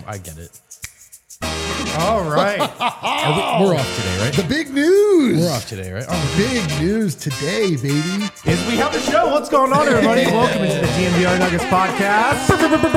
I get it. All right. We're off today, right? The big news. We're off today, right? Oh, big news today, baby. Is we have a show. What's going on, everybody? Welcome into the DNVR Nuggets podcast.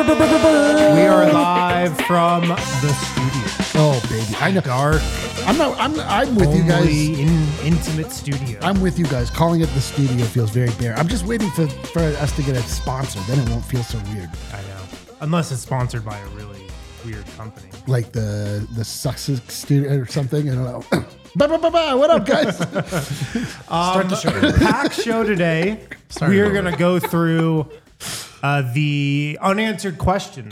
We are live from the studio. Oh, baby. I know. Dark, I'm with you guys. Intimate studio. I'm with you guys. Calling it the studio feels very bare. I'm just waiting for us to get a sponsor. Then it won't feel so weird. I know. Unless it's sponsored by a really weird company. Like the Sussex studio or something. I don't know. What up, guys? Start the show. Packed show today. We are going to go through the unanswered questions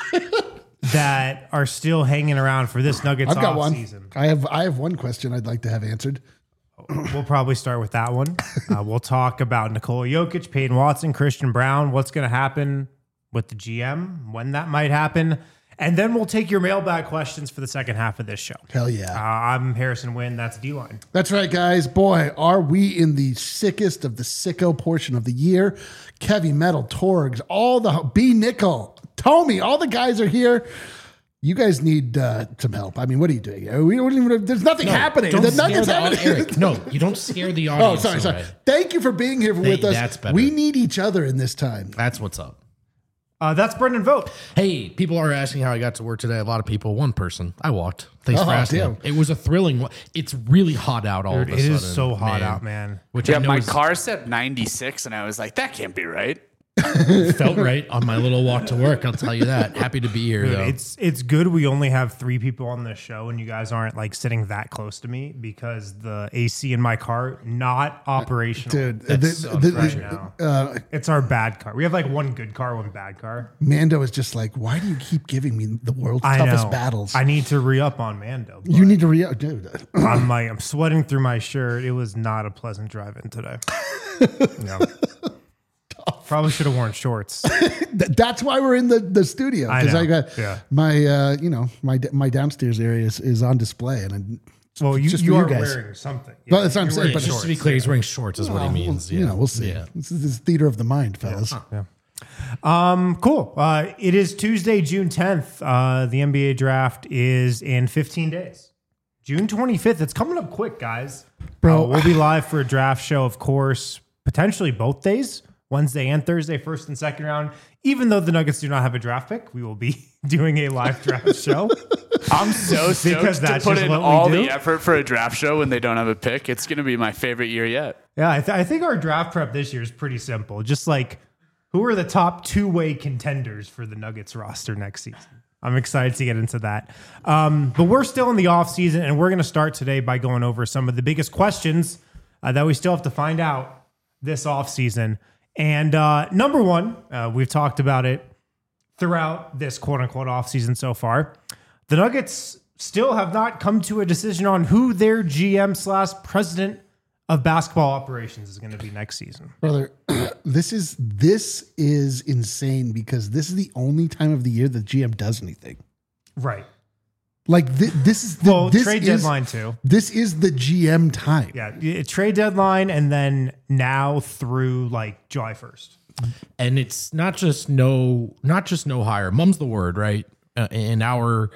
that are still hanging around for this Nuggets I've got off one. season. I have one question I'd like to have answered. We'll probably start with that one. We'll talk about Nikola Jokic, Peyton Watson, Christian Brown, what's going to happen with the GM, when that might happen. And then we'll take your mailbag questions for the second half of this show. Hell yeah. I'm Harrison Wynn. That's D-Line. That's right, guys. Boy, are we in the sickest of the sicko portion of the year. Kevy Metal, Torgs, all the B Nickel, Tommy, all the guys are here. You guys need some help. I mean, what are you doing? We don't even. There's nothing happening. Don't The scare Nuggets the happening. Eric, no, you don't scare the Oh, audience. sorry. away. Thank you for being here with us. That's better. We need each other in this time. That's what's up. That's Brendan Vogt. Hey, people are asking how I got to work today. A lot of people. One person. I walked. Thanks for Oh, asking. damn. It was a thrilling. It's really hot out all Dude, of a it sudden. is so hot out, man. Which I Yeah, know my is- car said 96, and I was like, that can't be right. felt right on my little walk to work. I'll tell you that. Happy to be here, Dude, though. it's good we only have 3 people on this show and you guys aren't like sitting that close to me because the AC in my car not operational. Dude, right now. It's our bad car. We have like one good car, one bad car. Mando is just like, why do you keep giving me the world's I toughest know. battles? I need to re-up on Mando. You need to dude. I'm sweating through my shirt. It was not a pleasant drive-in today. No. Probably should have worn shorts. That's why we're in the studio, because I got my my downstairs area is on display, and Well, you for are guys. wearing something. Well, that's what I'm You're saying, wearing but just to be clear, he's wearing shorts, is what he means. we'll see. Yeah. This is theater of the mind, fellas. Cool. It is Tuesday, June 10th. The NBA draft is in 15 days. June 25th. It's coming up quick, guys. Bro. We'll be live for a draft show, of course, potentially both days, Wednesday and Thursday, first and second round. Even though the Nuggets do not have a draft pick, we will be doing a live draft show. I'm so stoked Because to that's put just in what we all do. the effort for a draft show when they don't have a pick. It's going to be my favorite year yet. Yeah, I think our draft prep this year is pretty simple. Just like, who are the top two-way contenders for the Nuggets roster next season? I'm excited to get into that. But we're still in the offseason, and we're going to start today by going over some of the biggest questions that we still have to find out this offseason. And number one, we've talked about it throughout this quote-unquote offseason so far. The Nuggets still have not come to a decision on who their GM/president of basketball operations is going to be next season. Brother, this is insane, because this is the only time of the year that GM does anything. Right. Like this is the this trade is- deadline too. This is the GM time. Yeah, trade deadline, and then now through like July 1st. And it's not just no hire. Mum's the word, right? In our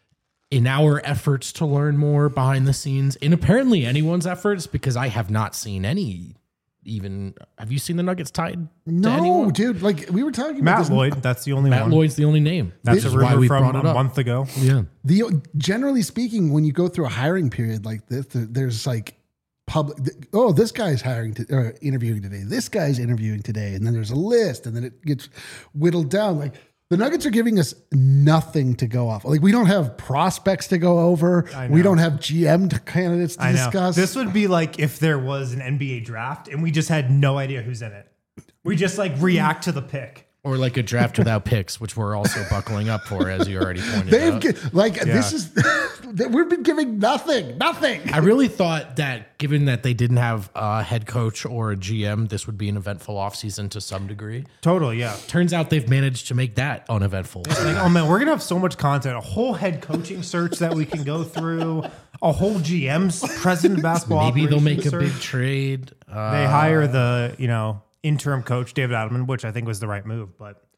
efforts to learn more behind the scenes, and apparently anyone's efforts, because I have not seen any. Even have you seen the Nuggets tied to No, anyone? dude. Like we were talking about Matt this. Lloyd, that's the only Matt one. Lloyd's the only name. That's Which a is why rumor we from brought it a up. month ago. Yeah. Generally speaking, when you go through a hiring period like this, there's like public. Oh, this guy's interviewing today. This guy's interviewing today, and then there's a list, and then it gets whittled down. Like the Nuggets are giving us nothing to go off. Like we don't have prospects to go over. We don't have GM candidates to discuss. This would be like if there was an NBA draft and we just had no idea who's in it. We just like react to the pick. Or like a draft without picks, which we're also buckling up for, as you already pointed out. This is we've been giving nothing. I really thought that, given that they didn't have a head coach or a GM, this would be an eventful offseason to some degree. Totally, yeah. Turns out they've managed to make that uneventful. Like, oh man, we're gonna have so much content, a whole head coaching search that we can go through, a whole GM's president of basketball. Maybe they'll make a operations big search. trade. They hire the interim coach David Adelman, which I think was the right move. But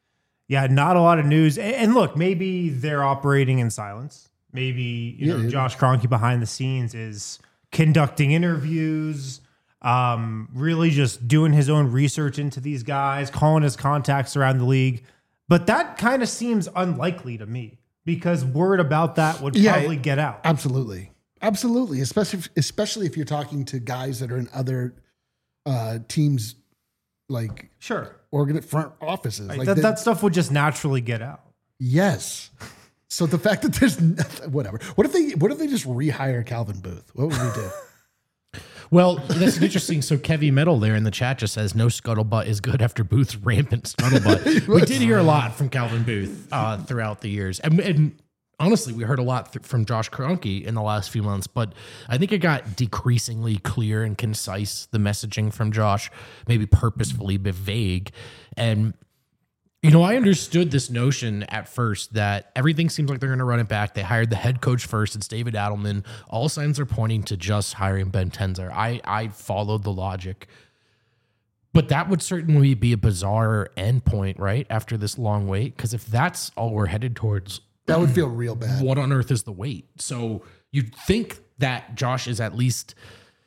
yeah, not a lot of news. And look, maybe they're operating in silence. Maybe Josh Kroenke behind the scenes is conducting interviews, really just doing his own research into these guys, calling his contacts around the league. But that kind of seems unlikely to me because word about that would probably get out. Absolutely. Especially if you're talking to guys that are in other teams, like front offices. Right. Like that stuff would just naturally get out. Yes. So the fact that there's whatever. What if they just rehire Calvin Booth? What would we do? Well, that's interesting. So Kevy Metal there in the chat just says no scuttlebutt is good after Booth's rampant scuttlebutt. We did hear a lot from Calvin Booth throughout the years. And honestly, we heard a lot from Josh Kroenke in the last few months, but I think it got decreasingly clear and concise, the messaging from Josh, maybe purposefully but vague. And I understood this notion at first that everything seems like they're going to run it back. They hired the head coach first. It's David Adelman. All signs are pointing to just hiring Ben Tenzer. I followed the logic. But that would certainly be a bizarre endpoint, right? After this long wait. Because if that's all we're headed towards, that would feel real bad. What on earth is the wait? So you'd think that Josh is at least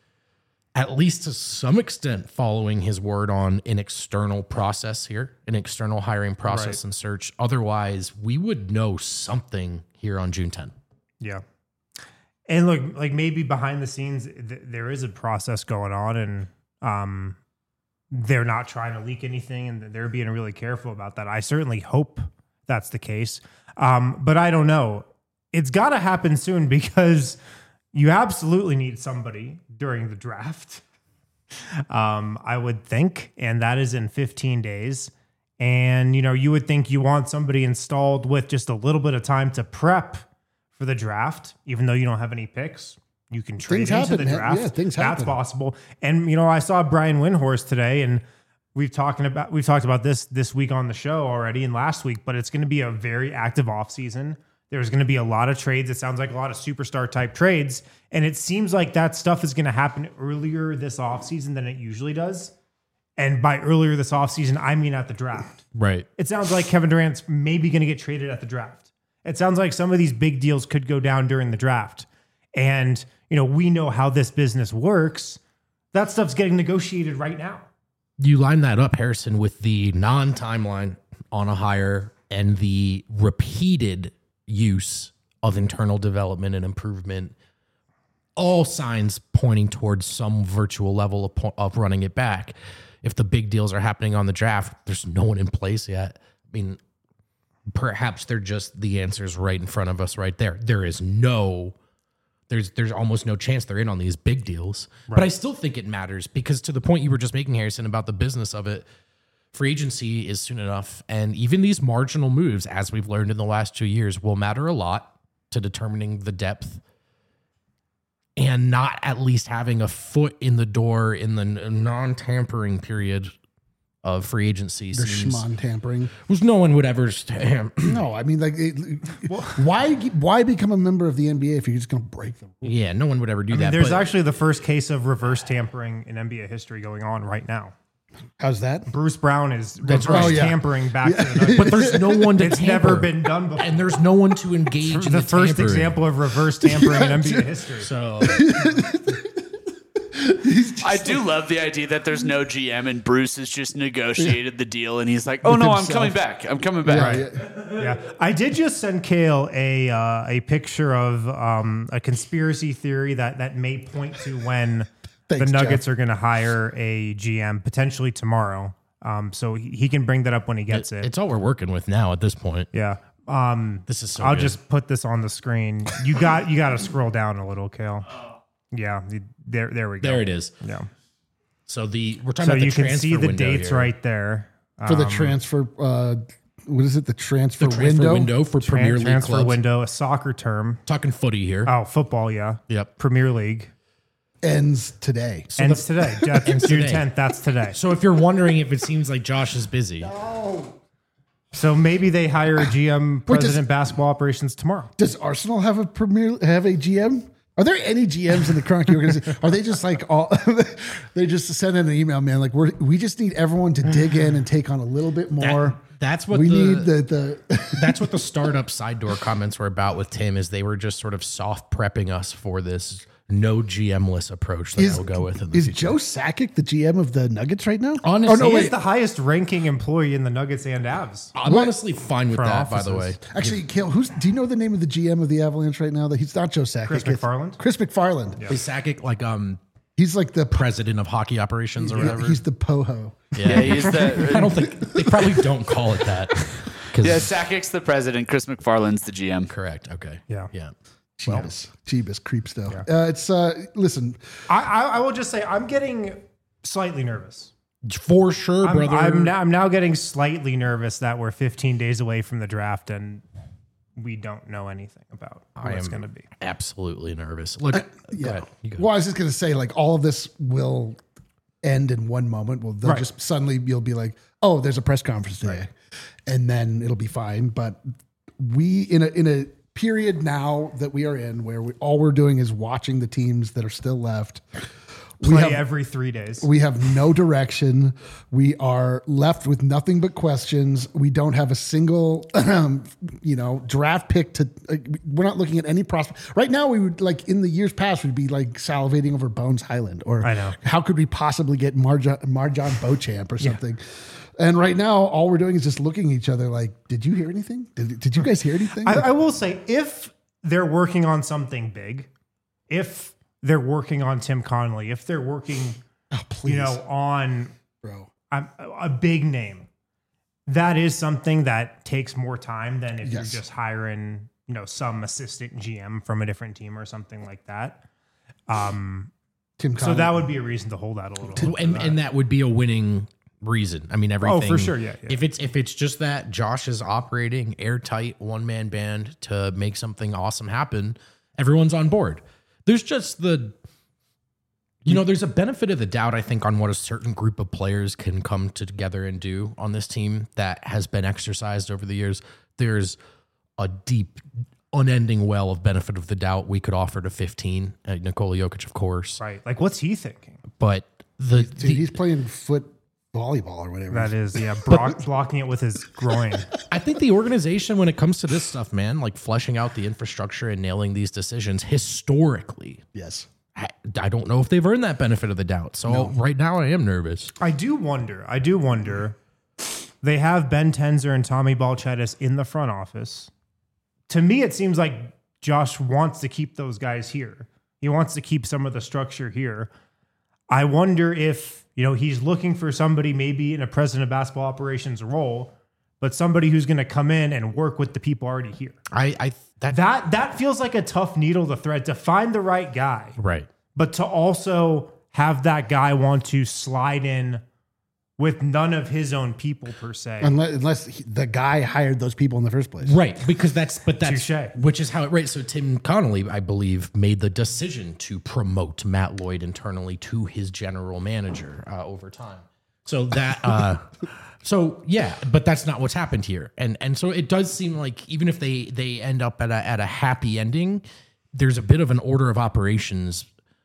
to some extent following his word on an external process here, an external hiring process and search. Otherwise, we would know something here on June 10. Yeah. And look, like maybe behind the scenes, there is a process going on and they're not trying to leak anything and they're being really careful about that. I certainly hope that's the case. But I don't know. It's got to happen soon because you absolutely need somebody during the draft. I would think, and that is in 15 days. And, you would think you want somebody installed with just a little bit of time to prep for the draft, even though you don't have any picks. You can trade into the draft. Yeah, things happen. That's possible. And, I saw Brian Windhorst today, and we've talked about this week on the show already and last week, but it's going to be a very active offseason. There's going to be a lot of trades. It sounds like a lot of superstar type trades. And it seems like that stuff is going to happen earlier this offseason than it usually does. And by earlier this offseason, I mean at the draft. Right. It sounds like Kevin Durant's maybe going to get traded at the draft. It sounds like some of these big deals could go down during the draft. And, we know how this business works. That stuff's getting negotiated right now. You line that up, Harrison, with the non-timeline on a hire and the repeated use of internal development and improvement, all signs pointing towards some virtual level of running it back. If the big deals are happening on the draft, there's no one in place yet. I mean, perhaps they're just the answers right in front of us right there. There's almost no chance they're in on these big deals. Right. But I still think it matters because to the point you were just making, Harrison, about the business of it, free agency is soon enough. And even these marginal moves, as we've learned in the last 2 years, will matter a lot to determining the depth and not at least having a foot in the door in the non-tampering period of free agency. The schmon tampering. Which no one would ever... No, I mean, why become a member of the NBA if you're just going to break them? Yeah, no one would ever do that. There's actually the first case of reverse tampering in NBA history going on right now. How's that? Bruce Brown is tampering back to the Nuggets. But there's no one to It's tamper. never been done before. And there's no one to engage in the first tampering. example of reverse tampering in NBA history. So I do love the idea that there's no GM and Bruce has just negotiated the deal and he's like, oh no, I'm coming back. I'm coming back. Yeah. I did just send Kale a picture of a conspiracy theory that may point to when the Nuggets are going to hire a GM potentially tomorrow. So he can bring that up when he gets it. It's all we're working with now at this point. Yeah. This is so I'll good. just put this on the screen. You got to scroll down a little, Kale. Yeah, there we go. There it is. Yeah. So we're talking So about the you can transfer see the window dates here. right there. For the transfer, what is it? The transfer window for Premier League transfer clubs. window, a soccer term. Talking footy here. Oh, football, yeah. Yep. Premier League. Ends today. Ends today. That's Ends June today. 10th. That's today. So if you're wondering if it seems like Josh is busy, So maybe they hire a GM, president basketball operations tomorrow. Does Arsenal have a GM? Are there any GMs in the Kroenke organization? Are they just like all? They just send in an email, man. Like we just need everyone to dig in and take on a little bit more. That's what we the, need the that's what the startup side door comments were about with Tim, is they were just sort of soft prepping us for this no GM-less approach that we'll go with in the Is future. Joe Sakic the GM of the Nuggets right now? Honestly, He is the highest ranking employee in the Nuggets and Avs. I'm honestly fine with For that, by the way. offices. Actually, Kale, do you know the name of the GM of the Avalanche right now? That he's not Joe Sakic. Chris it's McFarland? Chris McFarland. Is Sakic like He's like the president of hockey operations or whatever? he's the POHO. Yeah, he's the. I don't think they probably don't call it that. 'Cause- Yeah, Sakic's the president. Chris McFarland's the GM. correct. Okay. Yeah. Yeah. Jeebus creeps though. It's listen. I will just say I'm getting slightly nervous. For sure, brother. I'm now getting slightly nervous that we're 15 days away from the draft and we don't know anything about who it's going to be. absolutely nervous. Look, go ahead. You go. Well, I was just gonna say, like, all of this will end in one moment. Well, they'll just suddenly you'll be like, oh, there's a press conference today, and then it'll be fine. But we in a period now that we are in where all we're doing is watching the teams that are still left. Play every 3 days. We have no direction. We are left with nothing but questions. We don't have a single, draft pick to. We're not looking at any prospect right now. We would like in the years past, we'd be like salivating over Bones Highland, or I know. how could we possibly get Marjan Beauchamp or something. And right now, all we're doing is just looking at each other like, did you hear anything? Did you guys hear anything? I will say, if they're working on something big, if they're working on Tim Connolly, if they're working, please, on bro, a big name, that is something that takes more time than if Yes. you're just hiring, some assistant GM from a different team or something like that. Tim So Connolly. that would be a reason to hold out a little. And that would be a winning reason. I mean, everything. for sure, yeah. If it's just that Josh is operating airtight one-man band to make something awesome happen, everyone's on board. There's just there's a benefit of the doubt, I think, on what a certain group of players can come together and do on this team that has been exercised over the years. There's a deep, unending well of benefit of the doubt we could offer to 15. Nikola Jokic, of course. Right. Like, what's he thinking? But he's playing foot volleyball or whatever. That is, blocking it with his groin. I think the organization, when it comes to this stuff, man, like fleshing out the infrastructure and nailing these decisions historically, Yes. I don't know if they've earned that benefit of the doubt. So right now I am nervous. I do wonder. They have Ben Tenzer and Tommy Balchidis in the front office. To me, it seems like Josh wants to keep those guys here. He wants to keep some of the structure here. I wonder if, he's looking for somebody maybe in a president of basketball operations role, but somebody who's going to come in and work with the people already here. That feels like a tough needle to thread, to find the right guy. Right. But to also have that guy want to slide in with none of his own people per se. Unless the guy hired those people in the first place. Right. Because that's Touché. which is how it, right. So Tim Connolly, I believe, made the decision to promote Matt Lloyd internally to his general manager over time. So that, but that's not what's happened here. And so it does seem like even if they end up at a happy ending, there's a bit of an order of operations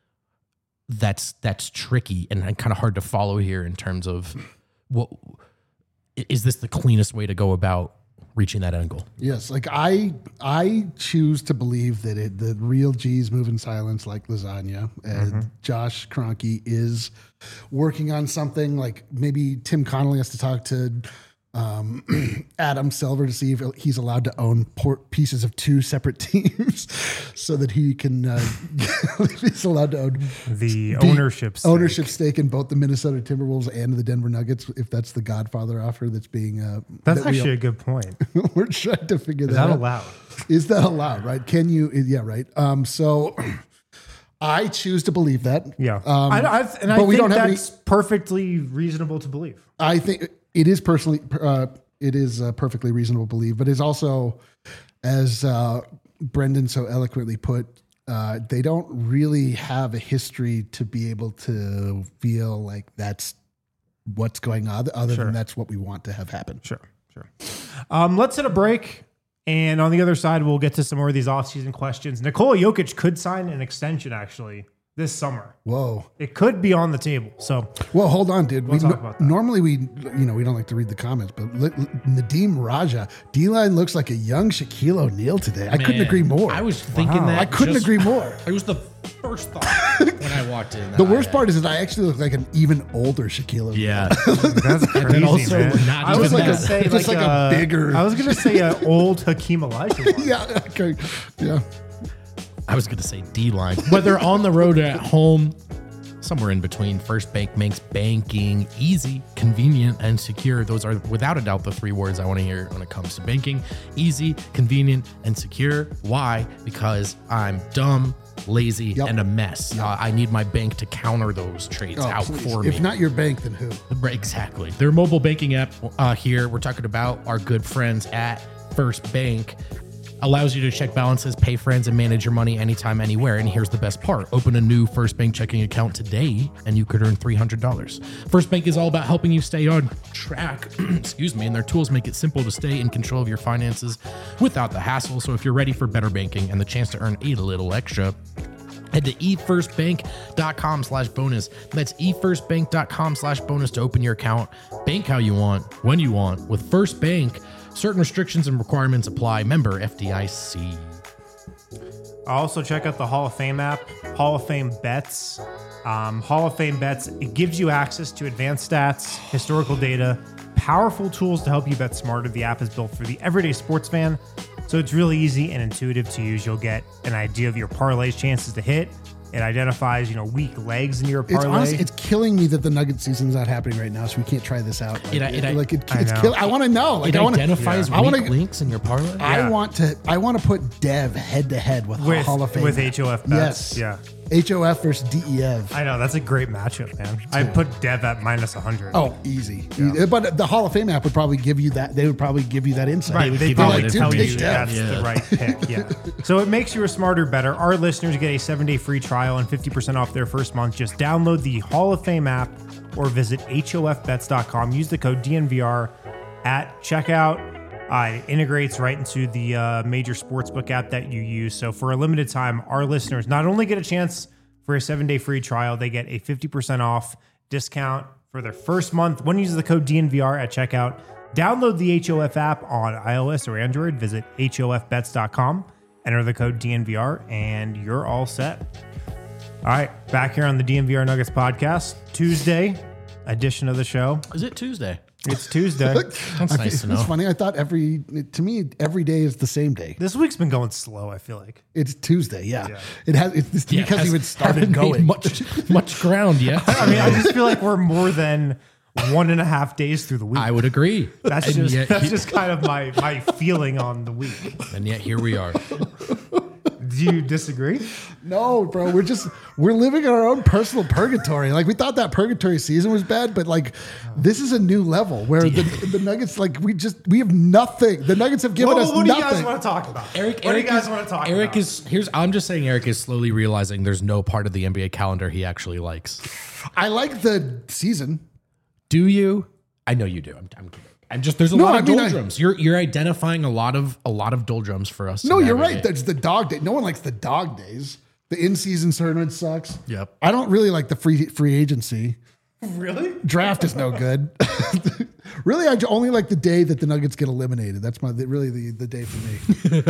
that's tricky and kind of hard to follow here in terms of what is this the cleanest way to go about reaching that end goal? Yes, like I choose to believe that the real G's move in silence like lasagna, and Josh Kroenke is working on something. Like maybe Tim Connolly has to talk to Adam Silver to see if he's allowed to own pieces of two separate teams, so that he can he's allowed to own the ownership stake in both the Minnesota Timberwolves and the Denver Nuggets, if that's the Godfather offer that's being. That's actually a good point. We're trying to figure Is that out. allowed? Is that allowed? Right? Can you? Yeah. Right. So I choose to believe that. Yeah. I think that's perfectly reasonable to believe. I think it is perfectly reasonable to believe, but it's also, as Brendan so eloquently put, they don't really have a history to be able to feel like that's what's going on, other than that's what we want to have happen. Sure. Let's hit a break. And on the other side, we'll get to some more of these offseason questions. Nikola Jokic could sign an extension, actually, this summer. Whoa. It could be on the table. So, Well, hold on, dude. We'll talk about that. Normally we don't like to read the comments, but Nadeem Raja, D-line looks like a young Shaquille O'Neal today. I couldn't Man, agree more. I was thinking that. I couldn't agree more. It was the first thought when I walked in. The worst part is that I actually look like an even older Shaquille O'Neal. Yeah. that's crazy, also man. not I was even going to that. say Just like a bigger- I was going to say an old Hakeem Olajuwon. Yeah. Okay. Yeah. I was going to say D-line. Whether on the road or at home, somewhere in between, First Bank makes banking easy, convenient, and secure. Those are without a doubt the three words I want to hear when it comes to banking. Easy, convenient, and secure. Why? Because I'm dumb, lazy, and a mess. I need my bank to counter those trades out Please. for me. If not your bank, then who? Exactly. Their mobile banking app here, we're talking about our good friends at First Bank, allows you to check balances, pay friends, and manage your money anytime, anywhere. And here's the best part. Open a new First Bank checking account today, and you could earn $300. First Bank is all about helping you stay on track, excuse me, and their tools make it simple to stay in control of your finances without the hassle. So if you're ready for better banking and the chance to earn a little extra, head to efirstbank.com/bonus. That's efirstbank.com/bonus to open your account. Bank how you want, when you want. With First Bank, certain restrictions and requirements apply. Member FDIC. Also, check out the Hall of Fame app, Hall of Fame Bets. Hall of Fame Bets, it gives you access to advanced stats, historical data, powerful tools to help you bet smarter. The app is built for the everyday sports fan, so it's really easy and intuitive to use. You'll get an idea of your parlay's chances to hit. It identifies, weak legs in your parlay. It's honestly, it's killing me that the Nugget season's not happening right now, so we can't try this out. I want to know. It identifies weak links in your parlay. I want to put Dev head to head with Hall of Fame with HOF bets. Yes, yeah. HOF versus DEF. I know, that's a great matchup, man. I put Dev at -100. Oh, easy. Yeah. But the Hall of Fame app would probably give you that. They would probably give you that insight. Right, they probably tell you take that's the right pick. Yeah. So it makes you a smarter, better. Our listeners get a 7-day free trial and 50% off their first month. Just download the Hall of Fame app or visit hofbets.com. Use the code DNVR at checkout. It integrates right into the major sportsbook app that you use. So for a limited time, our listeners not only get a chance for a 7-day free trial, they get a 50% off discount for their first month when you use the code DNVR at checkout. Download the HOF app on iOS or Android. Visit hofbets.com, enter the code DNVR, and you're all set. All right, back here on the DNVR Nuggets podcast, Tuesday edition of the show. Is it Tuesday? It's Tuesday. That's nice to know. It's funny. I thought every day is the same day. This week's been going slow, I feel like. It's Tuesday. Yeah. It has. It's because we started going much ground yet. I mean, I just feel like we're more than 1.5 days through the week. I would agree. That's just kind of my feeling on the week. And yet here we are. Do you disagree? No, bro. We're living in our own personal purgatory. Like, we thought that purgatory season was bad, but like this is a new level where the Nuggets, like, we have nothing. The Nuggets have given us nothing. What do you guys want to talk about? Eric, I'm just saying Eric is slowly realizing there's no part of the NBA calendar he actually likes. I like the season. Do you? I know you do. I'm kidding. There's a lot of doldrums. You're identifying a lot of doldrums for us. No, you're right. That's the dog day. No one likes the dog days. The in-season tournament sucks. Yep. I don't really like the free agency. Really? Draft is no good. Really, I only like the day that the Nuggets get eliminated. That's the day for me.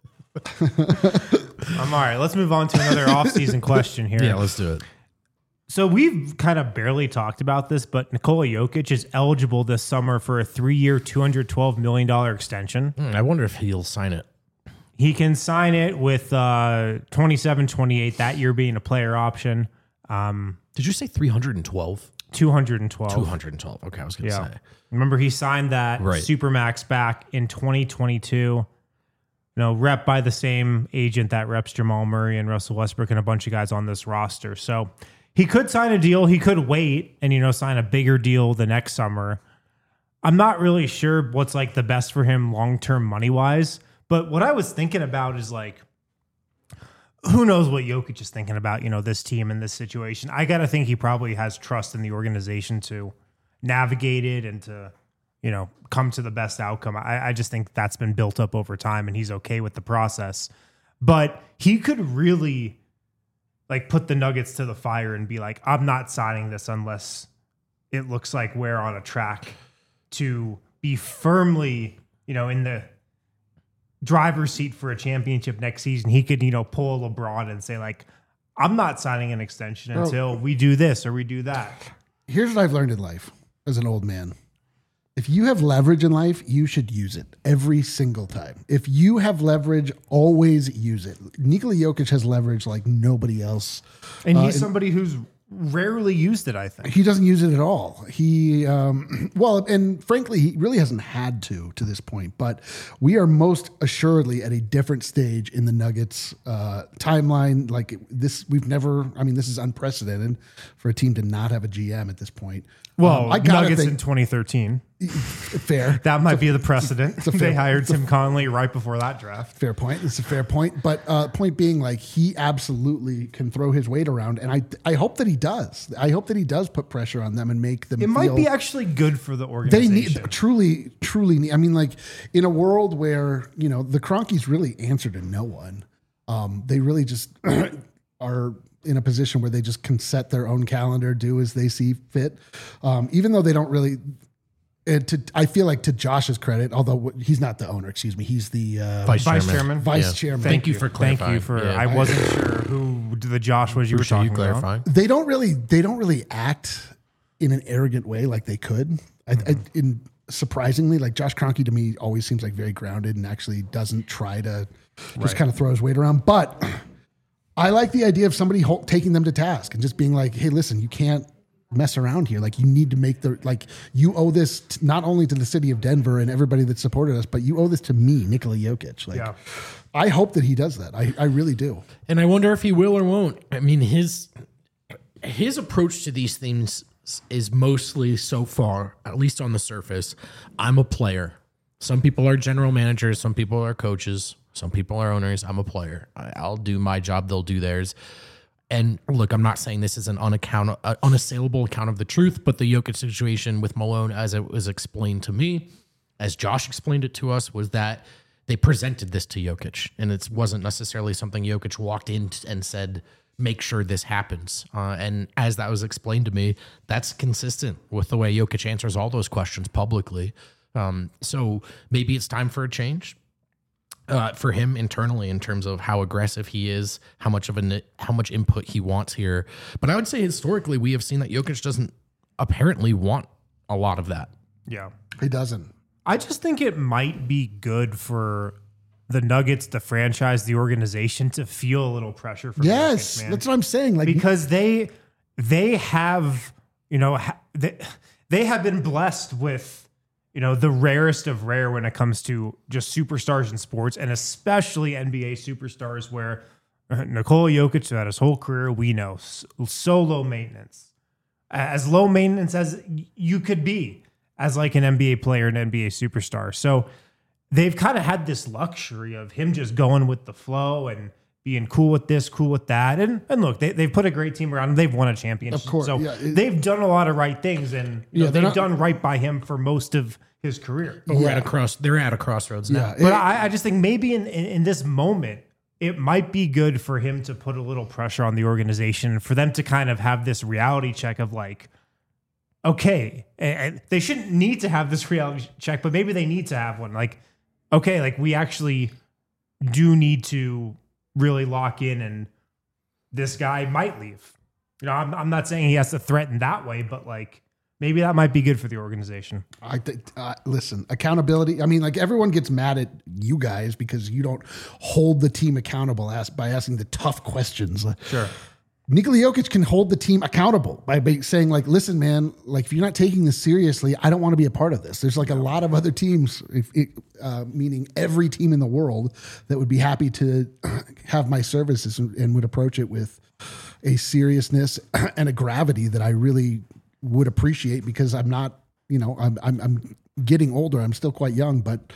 All right. Let's move on to another off-season question here. Yeah, let's do it. So we've kind of barely talked about this, but Nikola Jokic is eligible this summer for a 3-year, $212 million extension. I wonder if he'll sign it. He can sign it with 27-28, that year being a player option. Did you say 312? 212. 212. Okay, I was going to say. Remember, he signed that Supermax back in 2022. Rep by the same agent that reps Jamal Murray and Russell Westbrook and a bunch of guys on this roster. So he could sign a deal. He could wait and, sign a bigger deal the next summer. I'm not really sure what's like the best for him long-term money-wise. But what I was thinking about is like, who knows what Jokic is thinking about, this team and this situation. I got to think he probably has trust in the organization to navigate it and to, come to the best outcome. I just think that's been built up over time and he's okay with the process. But he could really like put the Nuggets to the fire and be like, I'm not signing this unless it looks like we're on a track to be firmly, in the driver's seat for a championship next season. He could, pull a LeBron and say like, I'm not signing an extension until we do this or we do that. Here's what I've learned in life as an old man. If you have leverage in life, you should use it every single time. If you have leverage, always use it. Nikola Jokic has leverage like nobody else. And he's somebody who's rarely used it, I think. He doesn't use it at all. And frankly, he really hasn't had to this point, but we are most assuredly at a different stage in the Nuggets timeline. Like this, this is unprecedented for a team to not have a GM at this point. Well, Nuggets in 2013. Fair. That might be the precedent. They hired Tim Connelly right before that draft. Fair point. It's a fair point. But point being, like, he absolutely can throw his weight around. And I hope that he does. I hope that he does put pressure on them and make them might be actually good for the organization. They need, truly need. I mean, like, in a world where, the Cronkies really answer to no one, they really just are in a position where they just can set their own calendar, do as they see fit. Even though they don't really, I feel like to Josh's credit, although he's not the owner, excuse me, he's the vice chairman. Chairman. Thank you for clarifying. I wasn't sure who the Josh was you were talking about. They don't really act in an arrogant way like they could. Surprisingly, like Josh Kroenke to me always seems like very grounded and actually doesn't try to just kind of throw his weight around. But I like the idea of somebody taking them to task and just being like, hey, listen, you can't mess around here. Like, you need to make you owe this not only to the city of Denver and everybody that supported us, but you owe this to me, Nikola Jokic. Like, I hope that he does that. I really do. And I wonder if he will or won't. I mean, his approach to these things is mostly, so far, at least on the surface, I'm a player. Some people are general managers. Some people are coaches. Some people are owners. I'm a player. I'll do my job. They'll do theirs. And look, I'm not saying this is an unassailable account of the truth, but the Jokic situation with Malone, as it was explained to me, as Josh explained it to us, was that they presented this to Jokic, and it wasn't necessarily something Jokic walked in and said, make sure this happens. And as that was explained to me, that's consistent with the way Jokic answers all those questions publicly. So maybe it's time for a change. For him internally, in terms of how aggressive he is, how much input he wants here. But I would say historically, we have seen that Jokic doesn't apparently want a lot of that. Yeah, he doesn't. I just think it might be good for the Nuggets, the franchise, the organization, to feel a little pressure from Jokic, man. That's what I'm saying. Like, because they have, they have been blessed with, the rarest of rare when it comes to just superstars in sports, and especially NBA superstars, where Nikola Jokic, throughout his whole career, we know, so low maintenance. As low maintenance as you could be as like an NBA player, an NBA superstar. So they've kind of had this luxury of him just going with the flow and being cool with this, cool with that. And look, they've put a great team around him. They've won a championship. Of course. So they've done a lot of right things, and they've done right by him for most of his career. But they're at a crossroads now. But I just think maybe in this moment, it might be good for him to put a little pressure on the organization, for them to kind of have this reality check of like, okay, and they shouldn't need to have this reality check, but maybe they need to have one. Like, okay, like we actually do need to really lock in, and this guy might leave. I'm not saying he has to threaten that way, but like, maybe that might be good for the organization. I think, listen, accountability. I mean, like, everyone gets mad at you guys because you don't hold the team accountable by asking the tough questions. Sure. Nikola Jokic can hold the team accountable by saying, like, listen, man, like, if you're not taking this seriously, I don't want to be a part of this. There's like a lot of other teams, meaning every team in the world, that would be happy to have my services and would approach it with a seriousness and a gravity that I really would appreciate, because I'm not, I'm getting older. I'm still quite young, but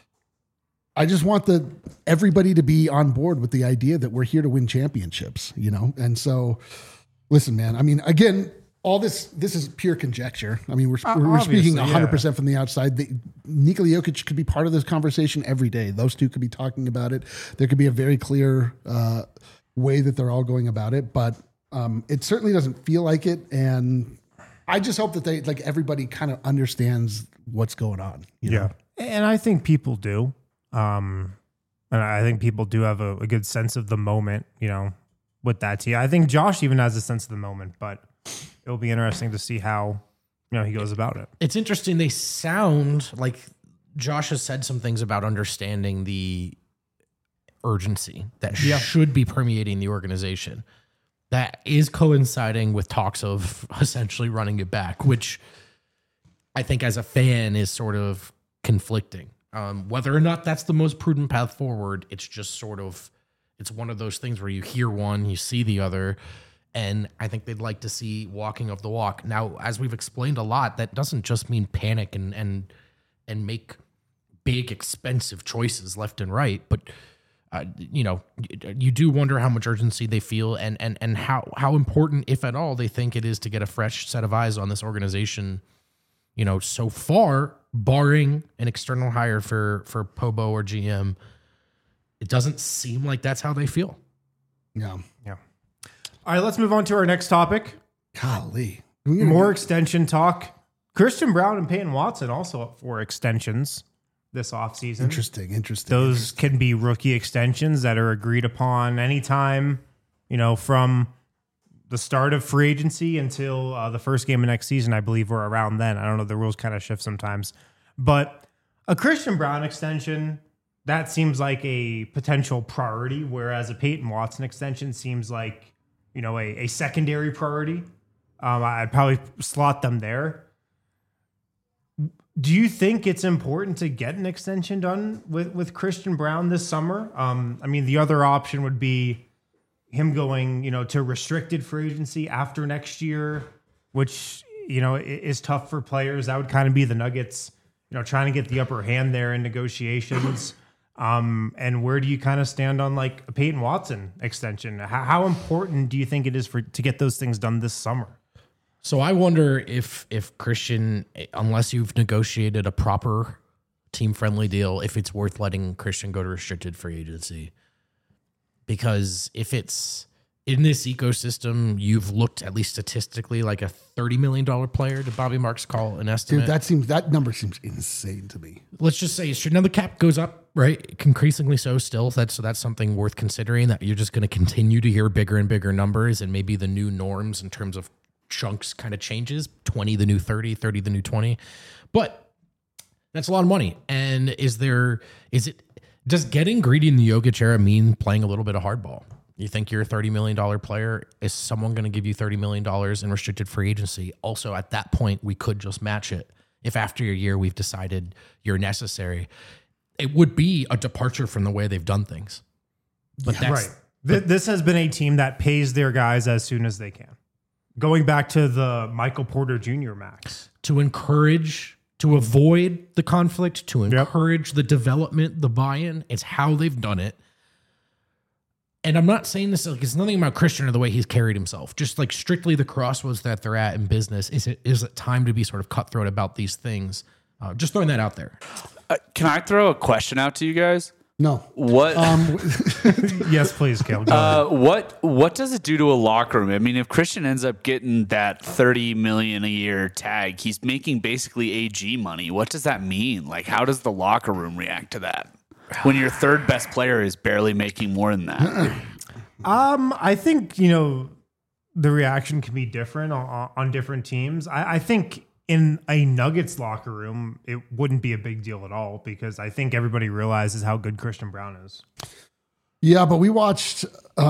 I just want everybody to be on board with the idea that we're here to win championships, And so, listen, man, I mean, again, all this is pure conjecture. I mean, we're speaking 100% from the outside. Nikola Jokic could be part of this conversation every day. Those two could be talking about it. There could be a very clear way that they're all going about it, but it certainly doesn't feel like it. And I just hope that everybody kind of understands what's going on. You know? And I think people do. And I think people do have a good sense of the moment, with that team. I think Josh even has a sense of the moment, but it'll be interesting to see how, he goes about it. It's interesting. They sound like Josh has said some things about understanding the urgency that should be permeating the organization. That is coinciding with talks of essentially running it back, which I think as a fan is sort of conflicting. Whether or not that's the most prudent path forward, it's just sort of, it's one of those things where you hear one, you see the other, and I think they'd like to see walking of the walk. Now, as we've explained a lot, that doesn't just mean panic and make big, expensive choices left and right, but you do wonder how much urgency they feel and how important, if at all, they think it is to get a fresh set of eyes on this organization. So far, barring an external hire for Pobo or GM, it doesn't seem like that's how they feel. Yeah. All right, let's move on to our next topic. Golly. More extension talk. Christian Braun and Peyton Watson also up for extensions this offseason. Interesting. Those can be rookie extensions that are agreed upon anytime, from the start of free agency until the first game of next season, I believe, or around then. I don't know. The rules kind of shift sometimes. But a Christian Braun extension, that seems like a potential priority, whereas a Peyton Watson extension seems like, a secondary priority. I'd probably slot them there. Do you think it's important to get an extension done with Christian Braun this summer? The other option would be him going, to restricted free agency after next year, which, is tough for players. That would kind of be the Nuggets, trying to get the upper hand there in negotiations. And where do you kind of stand on like a Peyton Watson extension? How important do you think it is to get those things done this summer? So I wonder if Christian, unless you've negotiated a proper team-friendly deal, if it's worth letting Christian go to restricted free agency. Because if it's in this ecosystem, you've looked at least statistically like a $30 million player. Did Bobby Marks call an estimate? Dude, that number seems insane to me. Let's just say now the cap goes up, right? Increasingly so still. That's something worth considering, that you're just going to continue to hear bigger and bigger numbers, and maybe the new norms in terms of chunks kind of changes. 20 the new 30 the new 20. But that's a lot of money. And does getting greedy in the Jokic era mean playing a little bit of hardball? You think you're a $30 million player? Is someone going to give you $30 million in restricted free agency? Also, at that point, we could just match it. If after a year we've decided you're necessary, it would be a departure from the way they've done things. But right. This has been a team that pays their guys as soon as they can. Going back to the Michael Porter Jr. max. To avoid the conflict, to encourage the development, the buy-in. It's how they've done it. And I'm not saying this, it's nothing about Christian or the way he's carried himself. Just like strictly the crossroads that they're at in business. Is it time to be sort of cutthroat about these things? Just throwing that out there. Can I throw a question out to you guys? No. What? Yes, please, Caleb. What does it do to a locker room? I mean, if Christian ends up getting that $30 million a year tag, he's making basically AG money. What does that mean? Like, how does the locker room react to that when your third best player is barely making more than that? I think the reaction can be different on different teams. I think in a Nuggets locker room, it wouldn't be a big deal at all, because I think everybody realizes how good Christian Braun is. Yeah, but we watched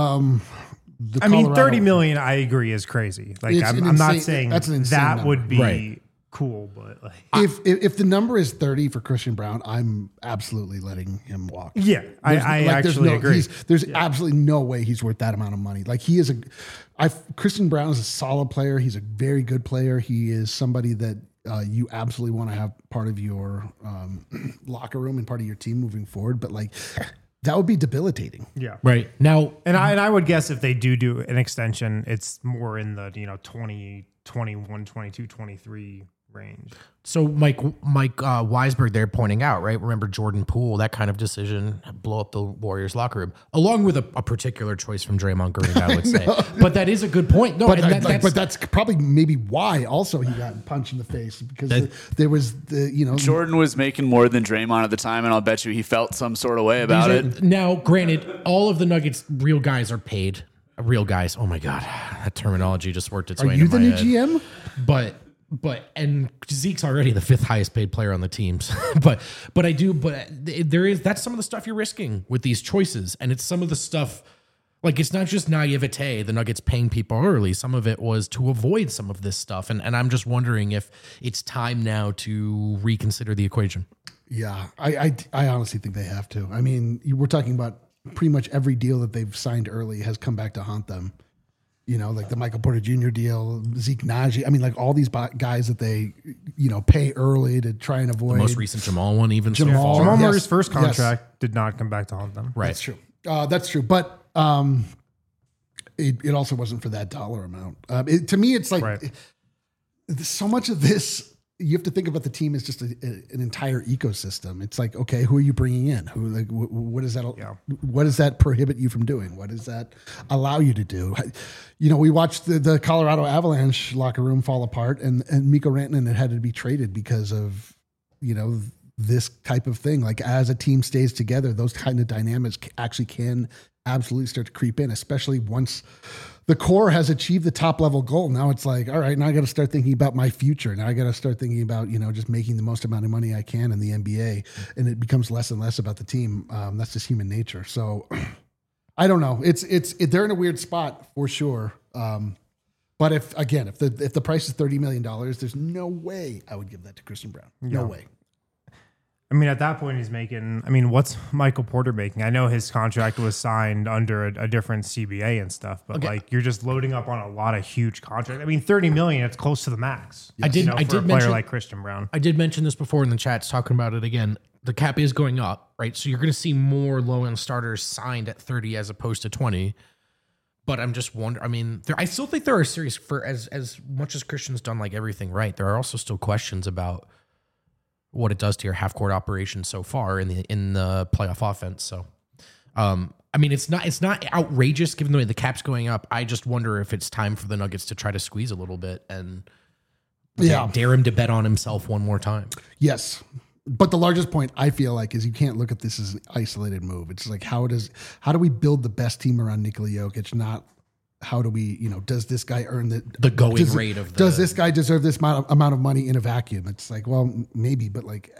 $30 million, I agree, is crazy. Like, I'm not saying that number. Would be right. Cool, but like, if the number is 30 for Christian Braun, I'm absolutely letting him walk. Yeah, I actually agree. There's absolutely no way he's worth that amount of money. Like, Christian Braun is a solid player. He's a very good player. He is somebody that you absolutely want to have part of your locker room and part of your team moving forward. But like, that would be debilitating. Yeah. Right. Now, and I would guess if they do an extension, it's more in the 20, 21, 22, 23 range. So Mike Weisberg there pointing out, right? Remember Jordan Poole, that kind of decision blow up the Warriors locker room, along with a particular choice from Draymond Green, I would say. But that is a good point. No, but that's probably maybe why also he got punched in the face because there was Jordan was making more than Draymond at the time, and I'll bet you he felt some sort of way about it. Now, granted, all of the Nuggets real guys are paid. Real guys. Oh my God, that terminology just worked its way into my head. Are you the new GM? And Zeke's already the 5th highest paid player on the teams. but that's some of the stuff you're risking with these choices. And it's some of the stuff, like it's not just naivete, the Nuggets paying people early. Some of it was to avoid some of this stuff. And I'm just wondering if it's time now to reconsider the equation. Yeah, I honestly think they have to. I mean, we're talking about pretty much every deal that they've signed early has come back to haunt them. Like the Michael Porter Jr. deal, Zeke Naji. I mean, like all these guys that they, pay early to try and avoid. The most recent Jamal one, even Jamal Murray's first contract did not come back to haunt them. Right. That's true. That's true. But it also wasn't for that dollar amount. To me, it's like so much of this. You have to think about the team as just an entire ecosystem. It's like, okay, who are you bringing in? Who, like, what does that? Yeah. What does that prohibit you from doing? What does that allow you to do? We watched the Colorado Avalanche locker room fall apart, and Mikko Rantanen had to be traded because of this type of thing. Like as a team stays together, those kind of dynamics actually can absolutely start to creep in, especially once the core has achieved the top level goal. Now it's like, all right, now I got to start thinking about my future. Now I got to start thinking about, just making the most amount of money I can in the NBA. And it becomes less and less about the team. That's just human nature. So I don't know. They're in a weird spot for sure. But if the price is $30 million, there's no way I would give that to Christian Brown. No way. I mean, at that point, he's making. What's Michael Porter making? I know his contract was signed under a different CBA and stuff, but you're just loading up on a lot of huge contracts. $30 million, it's close to the max. Yes. I did mention like Christian Brown. I did mention this before in the chats, talking about it again. The cap is going up, right? So you're going to see more low-end starters signed at 30 as opposed to 20. But I'm just wondering. I still think there are serious for as much as Christian's done like everything right. There are also still questions about what it does to your half court operation so far in the playoff offense. So, it's not outrageous given the way the cap's going up. I just wonder if it's time for the Nuggets to try to squeeze a little bit and dare him to bet on himself one more time. Yes. But the largest point I feel like is you can't look at this as an isolated move. It's like, how do we build the best team around Nikola Jokic? Not how do we, does this guy earn the going rate of does this guy deserve this amount of money in a vacuum? It's like, well, maybe, but like,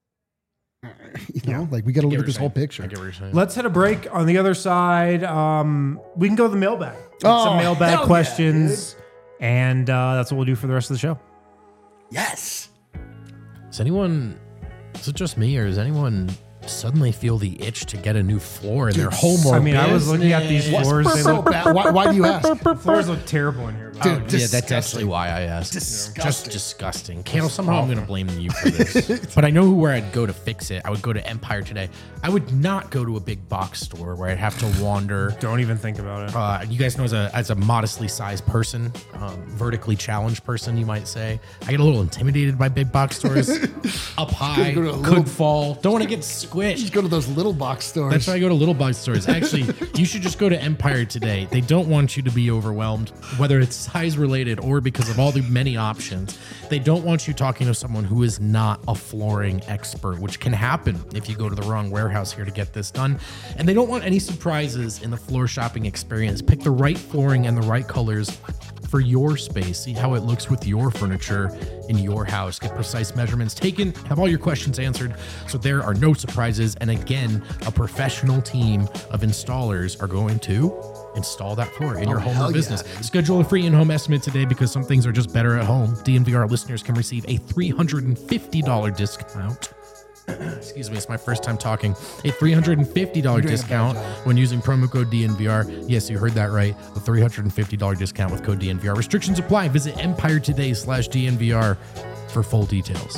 we got to look at this whole picture. Let's hit a break. On the other side, we can go to the mailbag. Some mailbag questions, and that's what we'll do for the rest of the show. Yes. Is it just me, or does anyone suddenly feel the itch to get a new floor in their home or business? I was looking at these floors. They look bad. Why do you ask? The floors look terrible in here. Dude, that's actually why I asked. Disgusting. Just disgusting. Candle, somehow I'm going to blame you for this. But I know where I'd go to fix it. I would go to Empire Today. I would not go to a big box store where I'd have to wander. Don't even think about it. You guys know as a modestly sized person, vertically challenged person, you might say, I get a little intimidated by big box stores. Up high, could fall. Don't want to get squished. Just go to those little box stores. That's why I go to little box stores. Actually, you should just go to Empire Today. They don't want you to be overwhelmed, whether it's size related or because of all the many options. They don't want you talking to someone who is not a flooring expert, which can happen if you go to the wrong warehouse here to get this done. And they don't want any surprises in the floor shopping experience. Pick the right flooring and the right colors for your space. See how it looks with your furniture in your house. Get precise measurements taken, have all your questions answered, so there are no surprises. And again, a professional team of installers are going to install that floor in your home or business. Yeah. Schedule a free in-home estimate today because some things are just better at home. DNVR listeners can receive a $350 discount. Excuse me, it's my first time talking. A $350 discount when using promo code DNVR. Yes, you heard that right. A $350 discount with code DNVR. Restrictions apply. Visit EmpireToday.com/DNVR for full details.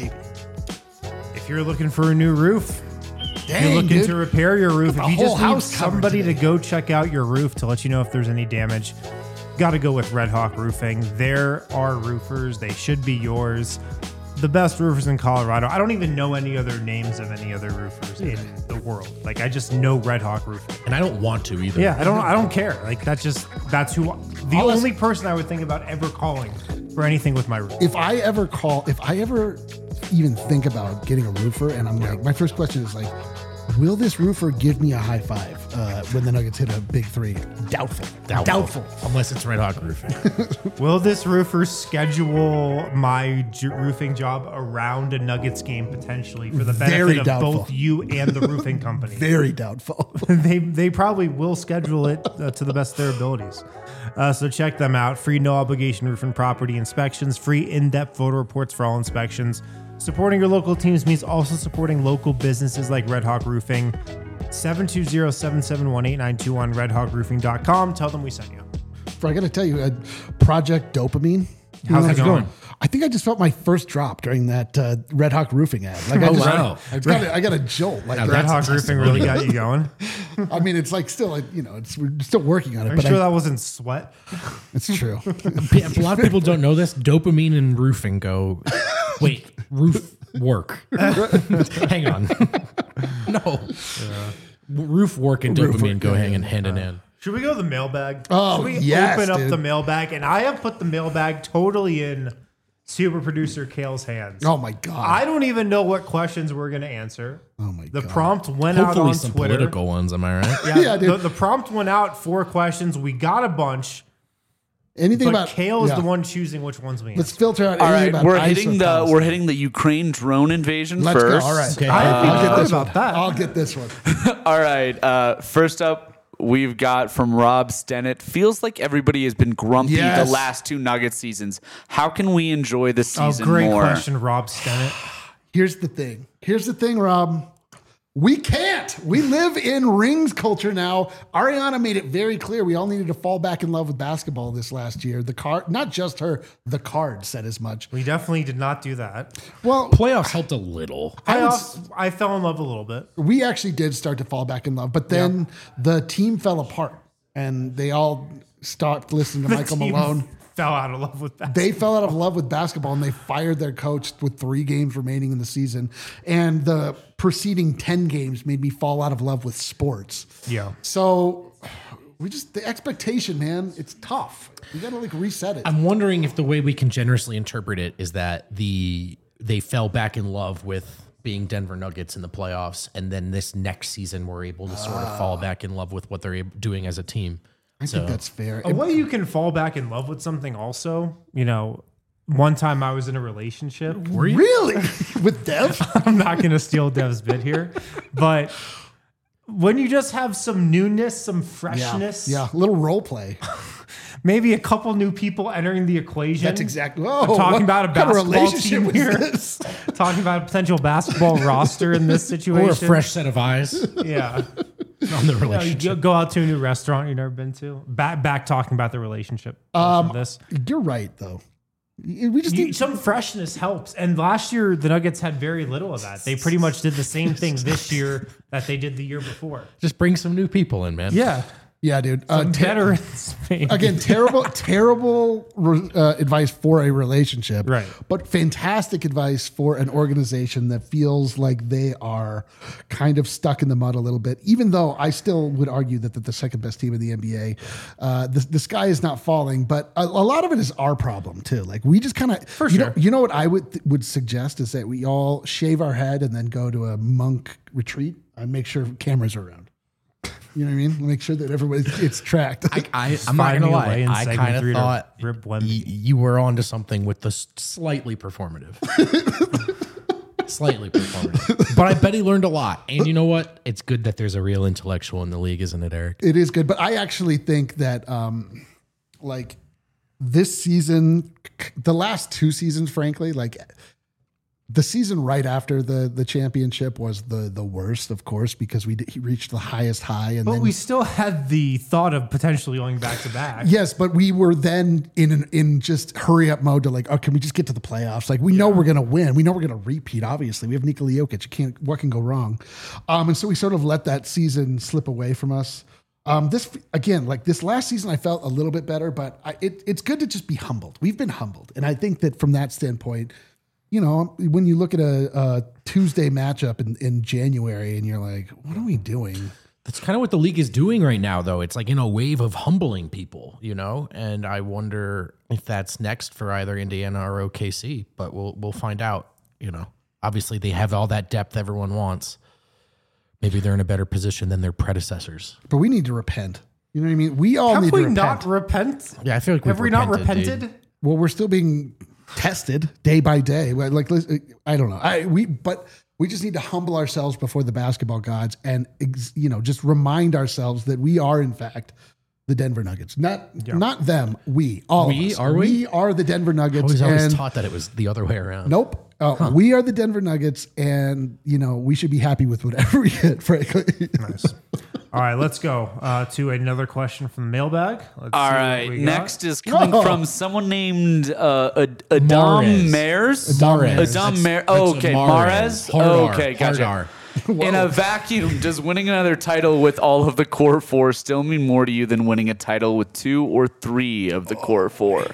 If you're looking for a new roof, if you're looking to repair your roof, if you just need somebody to go check out your roof to let you know if there's any damage, got to go with Red Hawk Roofing. They're our roofers. They should be yours. The best roofers in Colorado. I don't even know any other names of any other roofers in the world. Like, I just know Red Hawk Roofing. And I don't want to either. Yeah, I don't care. Like, that's who the only person I would think about ever calling for anything with my roof. If I ever even think about getting a roofer, and I'm like, my first question is like, will this roofer give me a high five when the Nuggets hit a big three? Doubtful. Unless it's Red Hawk Roofing. Will this roofer schedule my roofing job around a Nuggets game potentially for the Very benefit of doubtful. both you and the roofing company? Very doubtful. They probably will schedule it to the best of their abilities. So check them out. Free no obligation roof and property inspections, free in-depth photo reports for all inspections. Supporting your local teams means also supporting local businesses like Red Hawk Roofing. 720-771-8921 on redhawkroofing.com. Tell them we sent you. I got to tell you, Project Dopamine. How's it going? I think I just felt my first drop during that Red Hawk Roofing ad. Like, wow. I got a jolt. Like, Red Hawk Roofing really got you going. I mean, it's like still, we're still working on it. I'm but sure that wasn't sweat. it's true. Yeah, a lot of people don't know this. Dopamine and roofing go. Wait, roof work. Hang on. No. Roof work and dopamine go hand in hand. Should we go to the mailbag? Oh, Should we yes, open up dude. the mailbag? And I have put the mailbag totally in super producer Kale's hands. Oh my God. I don't even know what questions we're going to answer. Oh my The God. prompt went out Hopefully on some Twitter. political ones, am I right? Yeah, dude. the prompt went out 4 questions. We got a bunch, Anything but about Kale is yeah. the one choosing which ones we Let's answer. filter out All anything right, about we're ICE hitting or the Palestine. the Ukraine drone invasion Let's first. go. All right. Okay. I'll get this about one. that. I'll get this one. All right. First up, we've got from Rob Stennett. Feels like everybody has been grumpy Yes. the last 2 Nuggets seasons. How can we enjoy the Oh, season great more? question, Rob Stennett. Here's the thing, Rob. We can't. We live in rings culture now. Ariana made it very clear we all needed to fall back in love with basketball this last year. The card, not just her, the card said as much. We definitely did not do that. Well, Playoffs helped a little. I fell in love a little bit. we actually did start to fall back in love, but then the team fell apart and they all stopped listening to Michael Team Malone. fell out of love with that. They fell out of love with basketball and they fired their coach with 3 games remaining in the season. And the preceding 10 games made me fall out of love with sports. Yeah. So the expectation, man, it's tough. You got to reset it. I'm wondering if the way we can generously interpret it is that they fell back in love with being Denver Nuggets in the playoffs, and then this next season we're able to sort of fall back in love with what they're doing as a team. I think that's fair. A way you can fall back in love with something also, one time I was in a relationship. Really? With Dev? I'm not going to steal Dev's bit here, but when you just have some newness, some freshness, Yeah, little role play. maybe a couple new people entering the equation. That's exactly. I'm talking about a kind of basketball relationship team was here. this? Talking about a potential basketball roster in this situation. Or a fresh set of eyes Yeah. on the You relationship. go out to a new restaurant you've never been to. Back talking about the relationship. portion of this. You're right, though. We just need Some freshness helps. And last year, the Nuggets had very little of that. They pretty much did the same thing this year that they did the year before. Just bring some new people in, man. Yeah. Yeah, dude. Veterans. Again, terrible advice for a relationship. Right. But fantastic advice for an organization that feels like they are kind of stuck in the mud a little bit, even though I still would argue that they're the second best team in the NBA. The sky is not falling, but a lot of it is our problem too. Like we just kind of, sure. You know what I would suggest is that we all shave our head and then go to a monk retreat and make sure cameras are around. You know what I mean? Make sure that everybody it's tracked. I'm not gonna lie. I kind of thought Rip Wemby. you were onto something with the slightly performative. Slightly performative. But I bet he learned a lot. And you know what? It's good that there's a real intellectual in the league, isn't it, Eric? It is good, but I actually think that like this season, the last 2 seasons, frankly, like the season right after the championship was the worst, of course, because he reached the highest high, and But then we still had the thought of potentially going back to back. yes, but we were then in just hurry up mode to like, oh, can we just get to the playoffs? Like we know we're gonna win, we know we're gonna repeat. Obviously, we have Nikola Jokic. What can go wrong? And so we sort of let that season slip away from us. This again, like this last season, I felt a little bit better, but it's good to just be humbled. We've been humbled, and I think that from that standpoint, you know, when you look at a Tuesday matchup in January, and you're like, what are we doing? That's kind of what the league is doing right now, though. It's like in a wave of humbling people, you know, and I wonder if that's next for either Indiana or OKC. But we'll find out. You know, obviously they have all that depth everyone wants. Maybe they're in a better position than their predecessors. But we need to repent. You know what I mean? We all Have need we to repent. not repent? Yeah, I feel like Have we not repented, repented? dude. Well, we're still being tested day by day. Like, I don't know. But we just need to humble ourselves before the basketball gods and, you know, just remind ourselves that we are, in fact, the Denver Nuggets. Not them. We, all We? of us. Are we? We are the Denver Nuggets. I was always and taught that it was the other way around. nope. We are the Denver Nuggets, and, you know, we should be happy with whatever we get, frankly. Nice. All right, let's go to another question from the mailbag. Let's All see what right, we got. next is coming Whoa. from someone named Adam Mahrez. Mares. Mahrez. Adam Mares. That's Oh, okay, Mahrez. Hard R, Okay, hard gotcha. R. In a vacuum, does winning another title with all of the core four still mean more to you than winning a title with 2 or 3 of the core four?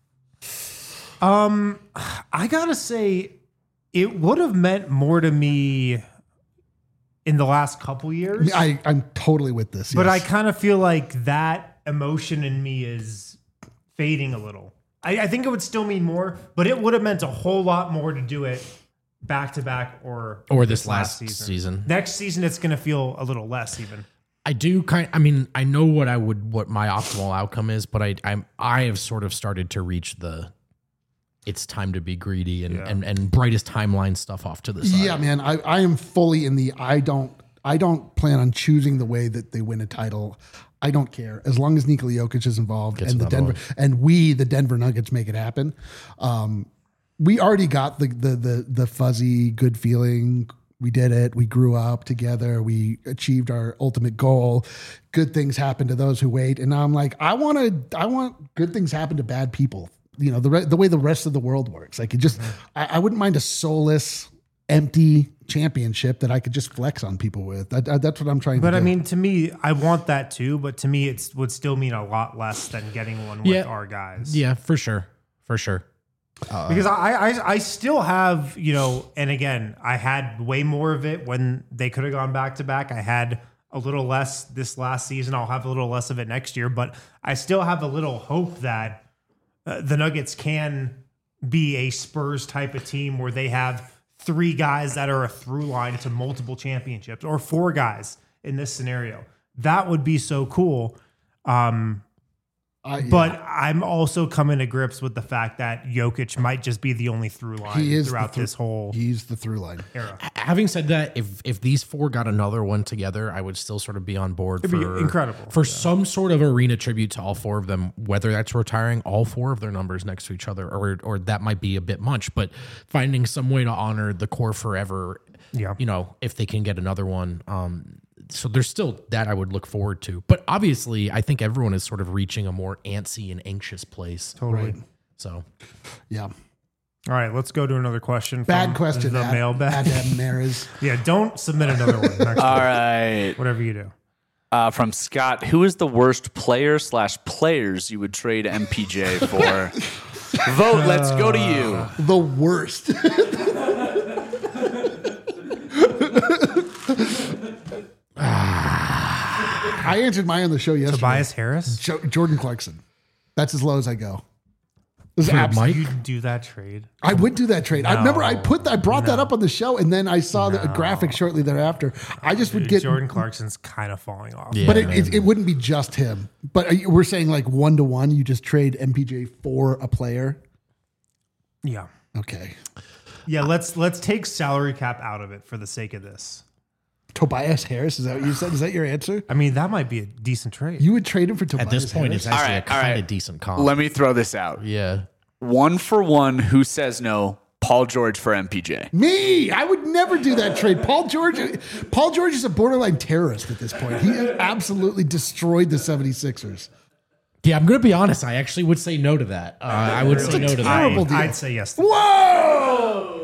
I gotta say, it would have meant more to me in the last couple years. I'm totally with this. But yes. I kind of feel like that emotion in me is fading a little. I think it would still mean more, but it would have meant a whole lot more to do it back to back or this last season. Next season, it's going to feel a little less even. I do I mean, I know what my optimal outcome is, but I have sort of started to reach it's time to be greedy and brightest timeline stuff off to the side. Yeah, man, I am fully in the I don't plan on choosing the way that they win a title. I don't care as long as Nikola Jokic is involved and the Denver Nuggets make it happen. We already got the fuzzy good feeling. We did it. We grew up together. We achieved our ultimate goal. Good things happen to those who wait. And now I'm like, I want good things happen to bad people. You know, the way the rest of the world works. Like it just, I wouldn't mind a soulless, empty championship that I could just flex on people with. That's what I'm trying to do. But I mean, to me, I want that too. But to me, it would still mean a lot less than getting one with our guys. Yeah, for sure. For sure. Because I still have, you know, and again, I had way more of it when they could have gone back to back. I had a little less this last season. I'll have a little less of it next year, but I still have a little hope that the Nuggets can be a Spurs type of team where they have 3 guys that are a through line to multiple championships, or 4 guys in this scenario. That would be so cool. But I'm also coming to grips with the fact that Jokic might just be the only through line throughout this whole He's the through line era. Having said that, if these 4 got another one together, I would still sort of be on board It'd be incredible. For some sort of arena tribute to all 4 of them, whether that's retiring all 4 of their numbers next to each other, or that might be a bit much, but finding some way to honor the core forever. Yeah. You know, if they can get another one. So there's still that I would look forward to. But obviously, I think everyone is sort of reaching a more antsy and anxious place. Totally. Right. So, yeah. All right, let's go to another question. Bad from question. The mailbag. Adam Mares. Yeah, don't submit another one. Next All week. right. Whatever you do. From Scott, who is the worst player/players you would trade MPJ for? Vote. Let's go to you. The worst. I answered mine on the show yesterday. Tobias Harris? Jordan Clarkson. That's as low as I go. Mike? You'd do that trade? I would do that trade. I remember I brought that up on the show, and then I saw the graphic shortly thereafter. I just would get Jordan Clarkson's kind of falling off. Yeah. but it wouldn't be just him. But we're saying like 1-to-1, you just trade MPJ for a player. Yeah. Okay. Yeah, let's take salary cap out of it for the sake of this. Tobias Harris, is that what you said? Is that your answer? I mean, that might be a decent trade. You would trade him for Tobias at this point, Harris? it's actually All right, a kind all of right. decent comp. Let me throw this out. Yeah. 1-for-1, who says no? Paul George for MPJ. Me, I would never do that trade. Paul George is a borderline terrorist at this point. He absolutely destroyed the 76ers. Yeah, I'm going to be honest. I actually would say no to that. I would say no to that. terrible deal. I'd say yes. Whoa!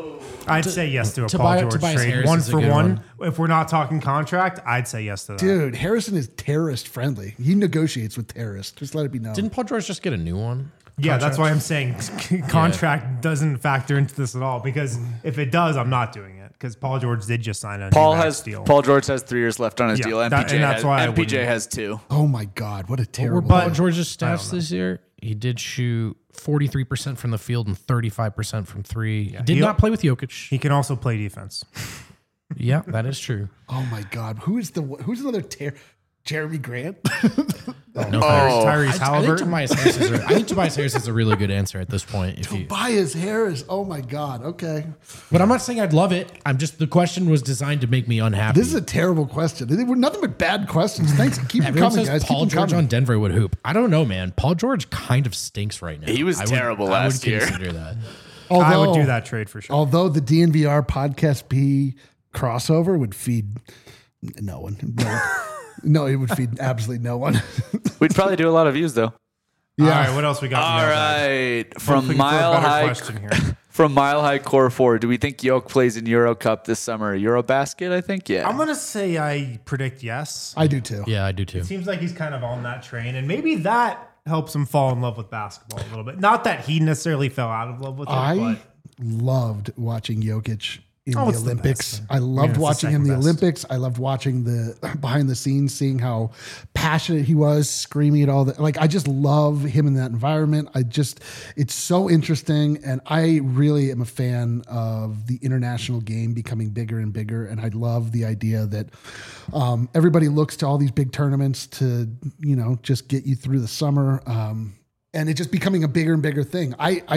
I'd say yes to a Paul Tobias- George Tobias trade. Harris One is a for good one. If we're not talking contract, I'd say yes to that. Dude, Harrison is terrorist friendly. He negotiates with terrorists. Just let it be known. Didn't Paul George just get a new one? Yeah, that's why I'm saying contract doesn't factor into this at all. Because if it does, I'm not doing it. Because Paul George did just sign a Paul new max deal. George has 3 years left on his Yeah, deal. that- MPJ, and that's why I MPJ wouldn't. has 2. Oh my God, what a Were terrible. Paul George's stats this year? He did shoot 43% from the field and 35% from 3. He did he- not play with Jokic. He can also play defense. Yeah, that is true. Oh my God, who's another Jeremy Grant? No, Tyrese I think Halliburton. I think Tobias Harris is a really good answer at this point. Tobias Harris. Oh my God. Okay, But I'm not saying I'd love it. I'm just the question was designed to make me unhappy. this is a terrible question. They were nothing but bad questions. Thanks. Keep them Everyone coming, says guys. Paul Keep them George coming. on Denver would hoop. I don't know, man. Paul George kind of stinks right now. He was terrible last year. I would consider that. I would do that trade for sure. Although the DNVR podcast P crossover would feed no one. No, it would feed absolutely no one. We'd probably do a lot of views though. All right, what else we got? All right, from Looking for a Mile better High, question here. from Mile High Core 4, do we think Yoke plays in Euro Cup this summer? Eurobasket, I think, yeah. I'm gonna say I predict yes. I do too. Yeah, I do too. Seems like he's kind of on that train, and maybe that helps him fall in love with basketball a little bit. Not that he necessarily fell out of love with it, I but loved watching Jokic in the it's the Olympics. best. I loved it's the watching him in the second best. Olympics. I loved watching the behind the scenes, seeing how passionate he was, screaming at all that. Like, I just love him in that environment. It's so interesting. And I really am a fan of the international game becoming bigger and bigger. And I love the idea that everybody looks to all these big tournaments to, just get you through the summer. And it just becoming a bigger and bigger thing.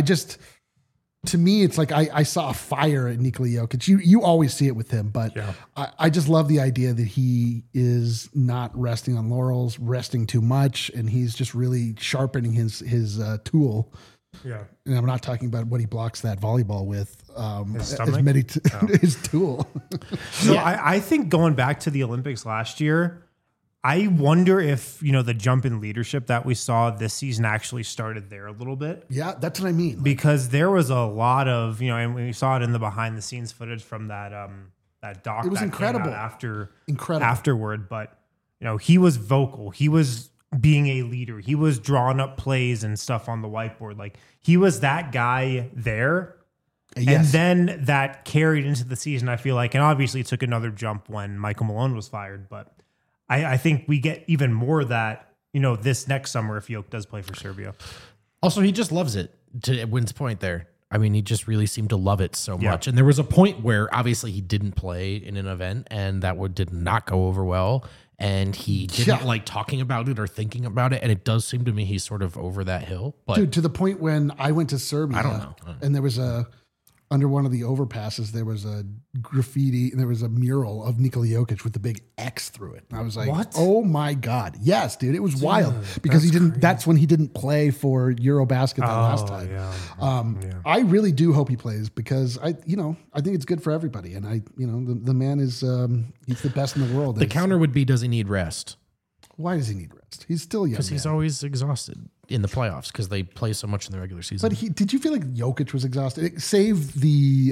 To me, it's like I saw a fire at Nikola Jokic. You always see it with him, but I just love the idea that he is not resting on laurels, resting too much, and he's just really sharpening his tool. yeah. And I'm not talking about what he blocks that volleyball with. His as stomach? many his tool. So I think going back to the Olympics last year, I wonder if, the jump in leadership that we saw this season actually started there a little bit. Yeah, that's what I mean. Because there was a lot of, and we saw it in the behind the scenes footage from that doc. It was that incredible. Came out Incredible. afterward. But, he was vocal. He was being a leader. He was drawing up plays and stuff on the whiteboard. Like, he was that guy there. Yes. And then that carried into the season, I feel like. And obviously it took another jump when Michael Malone was fired. But I think we get even more of that, this next summer if Yoke does play for Serbia. Also, he just loves it, to Wynn's point there. I mean, he just really seemed to love it so much. And there was a point where obviously he didn't play in an event and that did not go over well. And he didn't like talking about it or thinking about it. And it does seem to me he's sort of over that hill. But Dude, to the point when I went to Serbia, I don't know. And there was under one of the overpasses, there was a graffiti and there was a mural of Nikola Jokic with the big X through it. And I was like, What? Oh my God. Yes, dude. It was wild because that's when he didn't play for Eurobasket that last time. Yeah. I really do hope he plays because I think it's good for everybody. And the man is, he's the best in the world. the counter would be, does he need rest? Why does he need rest? He's still young. Because he's always exhausted in the playoffs because they play so much in the regular season. But did you feel like Jokic was exhausted? Save the,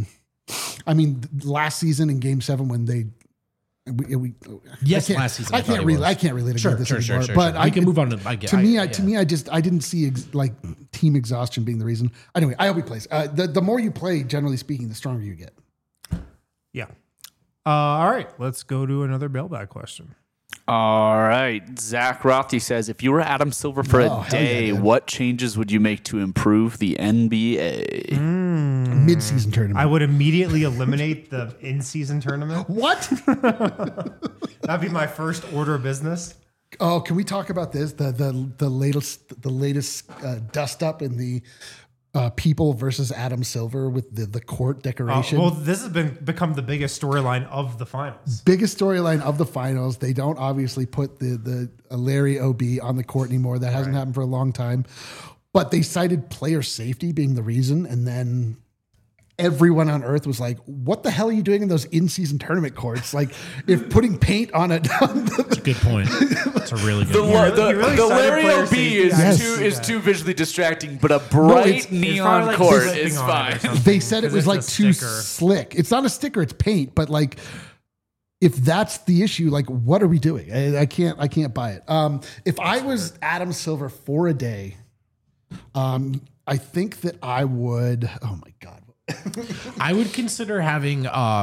last season in Game 7 when they. Last season. I can't really Sure, this sure, anymore. sure. But We can move on to me, I didn't see team exhaustion being the reason. Anyway, I hope he plays. The more you play, generally speaking, the stronger you get. Yeah. All right. Let's go to another mailbag question. All right. Zach Rothy says, if you were Adam Silver for Oh, a hell yeah, day, dude. what changes would you make to improve the NBA? Mid-season tournament. I would immediately eliminate the in-season tournament. What? That'd be my first order of business. Oh, can we talk about this? The latest dust up in the people versus Adam Silver with the court decoration. Well, this has become the biggest storyline of the finals. Biggest storyline of the finals. They don't obviously put the Larry OB on the court anymore. That hasn't happened for a long time. But they cited player safety being the reason, and then everyone on earth was like, what the hell are you doing in those in-season tournament courts? Like, if putting paint on it. That's a good point. It's a really good The, point. the Larry OB is too visually distracting, but a bright neon like court slipping is on it or fine. something. They said it Because was it's like a too sticker. slick. It's not a sticker, it's paint. But like, if that's the issue, like, what are we doing? I can't buy it. If I was Adam Silver for a day, I think that I would. Oh my god. I would consider having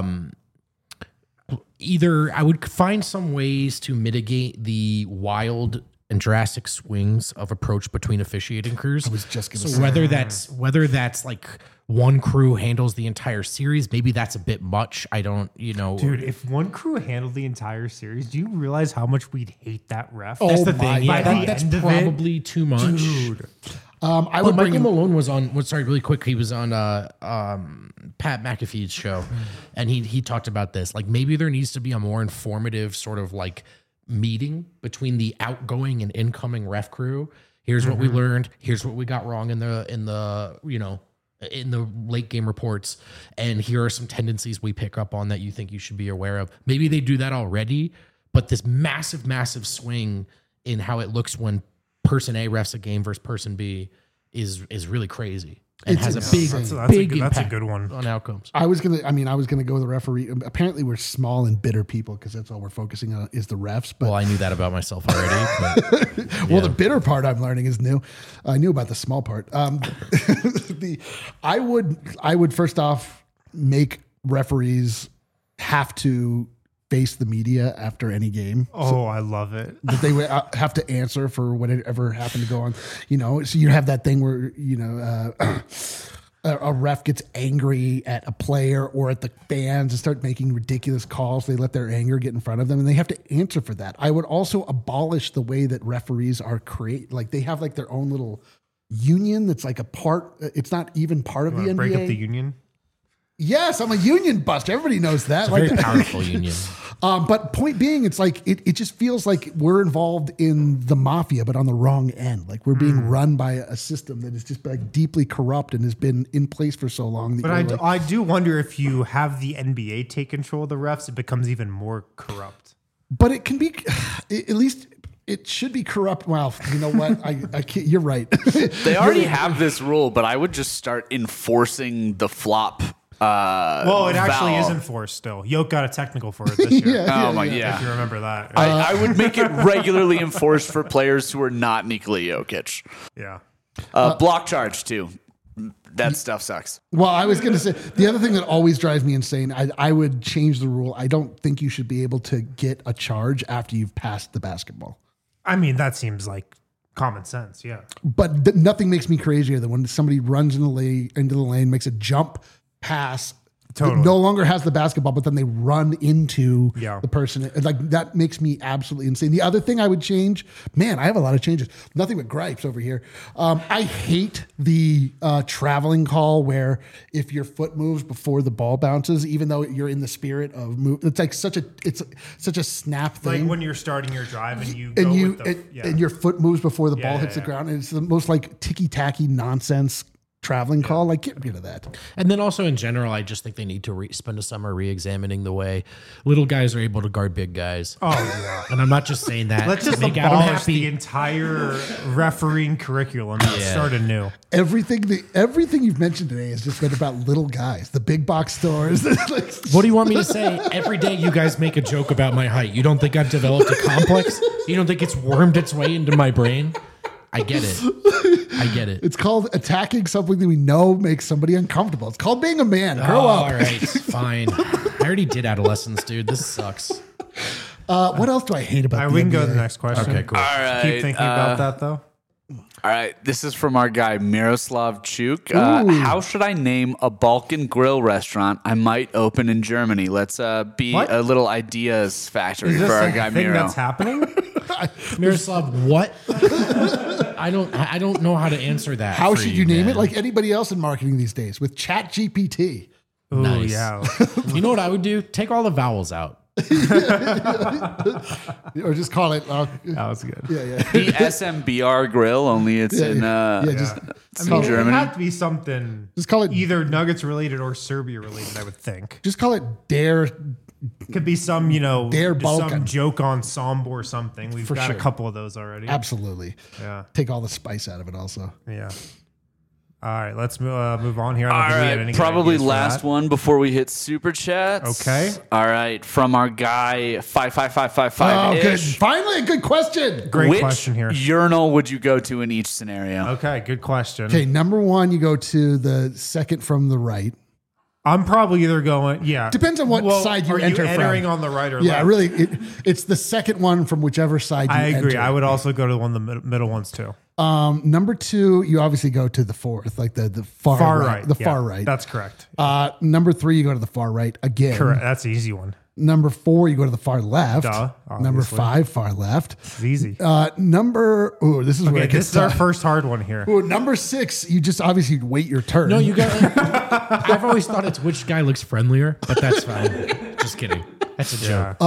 either I would find some ways to mitigate the wild and drastic swings of approach between officiating crews. I was just gonna so say. whether that's like one crew handles the entire series, maybe that's a bit much. I don't, Dude, if one crew handled the entire series, do you realize how much we'd hate that ref? Oh that's the my thing. Yeah, God. that's End of it? probably too much. Dude. I But would bring Michael him. Malone was on. Sorry, really quick. He was on Pat McAfee's show, and he talked about this. Like maybe there needs to be a more informative sort of like meeting between the outgoing and incoming ref crew. Here's what we learned. Here's what we got wrong in the late game reports, and here are some tendencies we pick up on that you think you should be aware of. Maybe they do that already, but this massive swing in how it looks when person A refs a game versus person B is really crazy and It's has a insane. big That's a impact good one. on outcomes. I was gonna go with the referee. Apparently, we're small and bitter people because that's all we're focusing on is the refs. But Well, I knew that about myself already. But well, the bitter part I'm learning is new. I knew about the small part. I would first off make referees have to face the media after any game. Oh, I love it. That they would have to answer for whatever happened to go on. So you have that thing where a ref gets angry at a player or at the fans and start making ridiculous calls. They let their anger get in front of them, and they have to answer for that. I would also abolish the way that referees are like they have like their own little union that's like a part. It's not even part of the NBA. Break up the union. Yes, I'm a union buster. Everybody knows that. it's a very powerful union. But point being, it's like it just feels like we're involved in the mafia, but on the wrong end. Like we're being run by a system that is just like deeply corrupt and has been in place for so long. That But I do wonder if you have the NBA take control of the refs, it becomes even more corrupt. but it can be at least it should be corrupt. Well, you know what? I can't, you're right. They already have this rule, but I would just start enforcing the flop. Well, it actually foul. is enforced still. Yoke got a technical for it this year. Oh my, If you yeah. remember that. I would make it regularly enforced for players who are not Nikola Jokic. Yeah. Block charge too. That stuff sucks. Well, I was going to say the other thing that always drives me insane. I would change the rule. I don't think you should be able to get a charge after you've passed the basketball. I mean, that seems like common sense. Yeah. But nothing makes me crazier than when somebody runs into the lane, makes a jump pass, Totally. no longer has the basketball, but then they run into Yeah. the person. Like that makes me absolutely insane. The other thing I would change, man, I have a lot of changes. Nothing but gripes over here. I hate the traveling call where if your foot moves before the ball bounces, even though you're in the spirit of move, it's like such a snap thing. Like when you're starting your drive and you and go you with the, and your foot moves before the ball Yeah, hits the yeah. ground, and it's the most like ticky tacky nonsense traveling call. Like, get rid of that. And then also in general, I just think they need to spend a summer re-examining the way little guys are able to guard big guys. Oh, yeah. And I'm not just saying that Let's to just make Adam abolish the happy. entire refereeing curriculum and start anew. Everything you've mentioned today has just been about little guys, the big box stores. Like, What do you want me to say? Every day you guys make a joke about my height. You don't think I've developed a complex? You don't think it's wormed its way into my brain? I get it. it's called attacking something that we know makes somebody uncomfortable. It's called being a man. Grow up. All right, fine. I already did adolescence, dude. This sucks. What else do I hate about All right, the we can go to NBA? the next question. Okay, cool. All right. Keep thinking about that though. All right. This is from our guy Miroslav Chuk. Ooh. How should I name a Balkan grill restaurant I might open in Germany? Let's be What? a little ideas factory Is for this our a guy thing Miro. that's happening? Miroslav, what? I don't know how to answer that. How for should you name man. it? Like anybody else in marketing these days with Chat GPT. Oh, Nice. yeah. You know what I would do? Take all the vowels out. Or just call it. That was good. Yeah. The SMBR grill, only it's in Just I mean, it Germany. had to be something Just call it- either Nuggets related or Serbia related, I would think. just call it Dare. Could be some, Dare some Balkan. joke ensemble or something. We've got sure. a couple of those already. Absolutely. Yeah. Take all the spice out of it. Also. Yeah. All right, let's move on here. I don't All think we had any right, good probably ideas for last that. one before we hit super chats. Okay. All right, from our guy Oh, 55555 good. ish. Finally, a good question. Great Which question here. urinal would you go to in each scenario? Okay, good question. Okay, number one, you go to the second from the right. I'm probably either going, Depends on what side you are enter you entering from. on the right or Yeah, left? really, it's the second one from whichever side you I agree. enter. I would also go to the one of the middle ones too. Number two, you obviously go to the fourth, like the far right. The yeah, far right. That's correct. Number three, you go to the far right again. Correct. That's the easy one. Number four, you go to the far left. Duh, Number obviously. five, far left. It's easy. This is where Okay, it this gets is our tough. first hard one here. Ooh, number six, you just obviously wait your turn. No, you got. I've always thought it's which guy looks friendlier, but that's fine. Just kidding. That's a joke.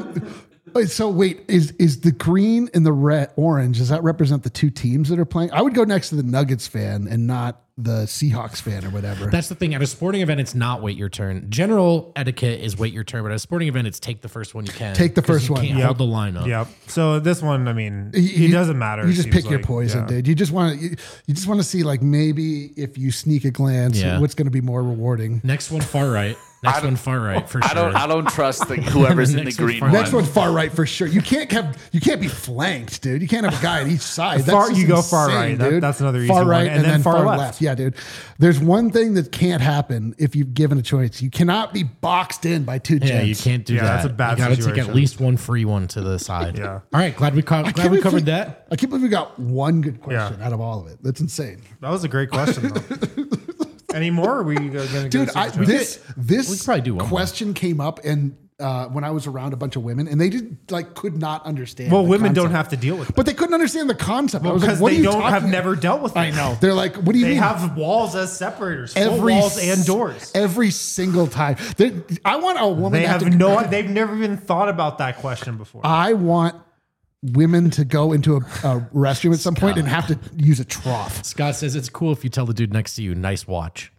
So wait, is the green and the red orange, does that represent the two teams that are playing? I would go next to the Nuggets fan and not the Seahawks fan or whatever. That's the thing. At a sporting event, it's not wait your turn. General etiquette is wait your turn, but at a sporting event, it's take the first one you can. Take the 'cause first you one. Can't Yep. hold the line up. Yep. So this one, I mean, it doesn't matter. You it just seems pick your like. poison, Yeah. dude. You just want to see like maybe if you sneak a glance, Yeah. what's going to be more rewarding. Next one, far right. Next one, far right for sure. I don't trust whoever's in the Next one's green far one. Next one, far right for sure. You can't be flanked, dude. You can't have a guy at each side. Far- That's you just go far insane, right. dude. That's another easy far one. right And then far left. Yeah, dude. There's one thing that can't happen if you've given a choice. You cannot be boxed in by two Yeah, gents. you can't do Yeah, that. that's a bad You got to take situation. at least one free one to the side. Yeah. All right. Glad we I can't glad we believe covered that. I can't believe we got one good question Yeah. out of all of it. That's insane. That was a great question, though. Any more? Or are we going to Dude, this we could probably do one more. question came up and when I was around a bunch of women and they could not understand. Well, the women don't concept. have to deal with it. But they couldn't understand the concept. I was Because like, what they are you don't have talking never dealt with it. I know. They're like, what do you They mean? have walls as separators, full walls and doors. Every single time. I want a woman They to have have to, they've never even thought about that question before. I want women to go into a restroom at some point and have to use a trough. Scott says it's cool if you tell the dude next to you, nice watch.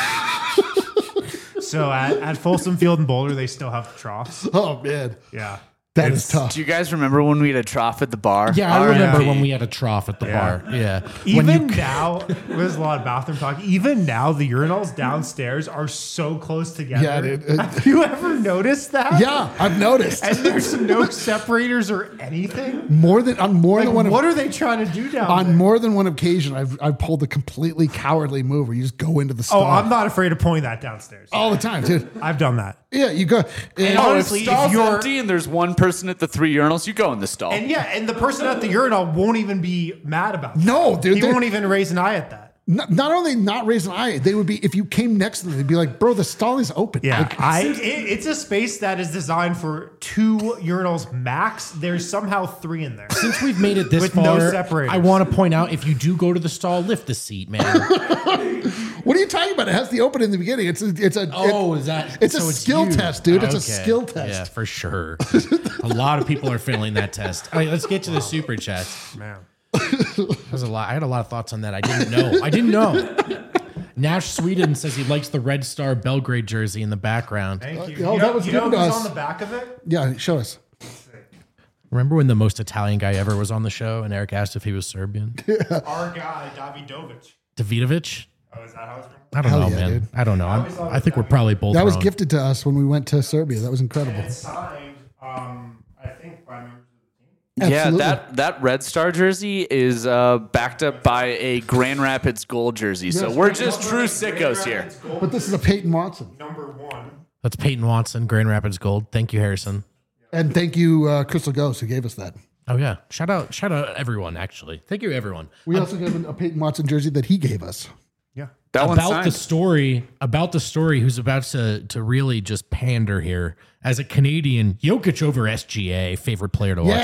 So at Folsom Field in Boulder, they still have troughs. Oh man, Yeah. that is tough. Do you guys remember when we had a trough at the bar? Yeah, I remember R.I.P. when we had a trough at the Yeah. bar. Yeah. Even When you- now, there's a lot of bathroom talk. Even now, the urinals downstairs are so close together. Yeah, dude. Have you ever noticed that? Yeah, I've noticed. And there's no separators or anything. More than on more Like, than one. what are they trying to do down On there? more than one occasion, I've pulled a completely cowardly move where you just go into the stall Oh, I'm not afraid of pulling that downstairs. all the time, dude. I've done that. Yeah, you go. And Oh, honestly, if stall's if you're- empty and there's one person at the three urinals, you go in the stall. And yeah, and the person at the urinal won't even be mad about it. No, dude. He they're- won't even raise an eye at that. not only not raise an eye, they would be if you came next to them, they'd be like, "Bro, the stall is open." Yeah, Like, it's a space that is designed for 2 urinals max. There's somehow 3 in there. Since we've made it this With far, no separators. I want to point out if you do go to the stall, lift the seat, man. what are you talking about? It has the open in the beginning. It's a Is that? It's a skill you. test, dude. It's a Okay. skill test. Yeah, for sure. A lot of people are failing that test. All right, let's get to the super chats. Man. There's a lot. I had a lot of thoughts on that. I didn't know. Nash Sweden says he likes the Red Star Belgrade jersey in the background. Thank you. oh, that was you know given to who's us. on the back of it? Yeah, show us. Remember when the most Italian guy ever was on the show and Eric asked if he was Serbian? Our guy, Davidovic. Davidovic? Oh, is that how it's from? I don't Hell know, yeah, man. dude. I don't know. always thought I think we're probably both That was wrong. gifted to us when we went to Serbia. That was incredible. It's signed, I think, by members of the team. Absolutely. Yeah, that Red Star jersey is backed up by a Grand Rapids gold jersey. So Yes. we're just true sickos here. But this is a Peyton Watson. Number 1. That's Peyton Watson, Grand Rapids Gold. Thank you, Harrison. And thank you, Crystal Ghost, who gave us that. Oh yeah, shout out everyone. Actually, thank you everyone. We also gave him a Peyton Watson jersey that he gave us. Yeah. That one's About the signed. story, who's about to really just pander here as a Canadian. Jokic over SGA, favorite player to watch ever.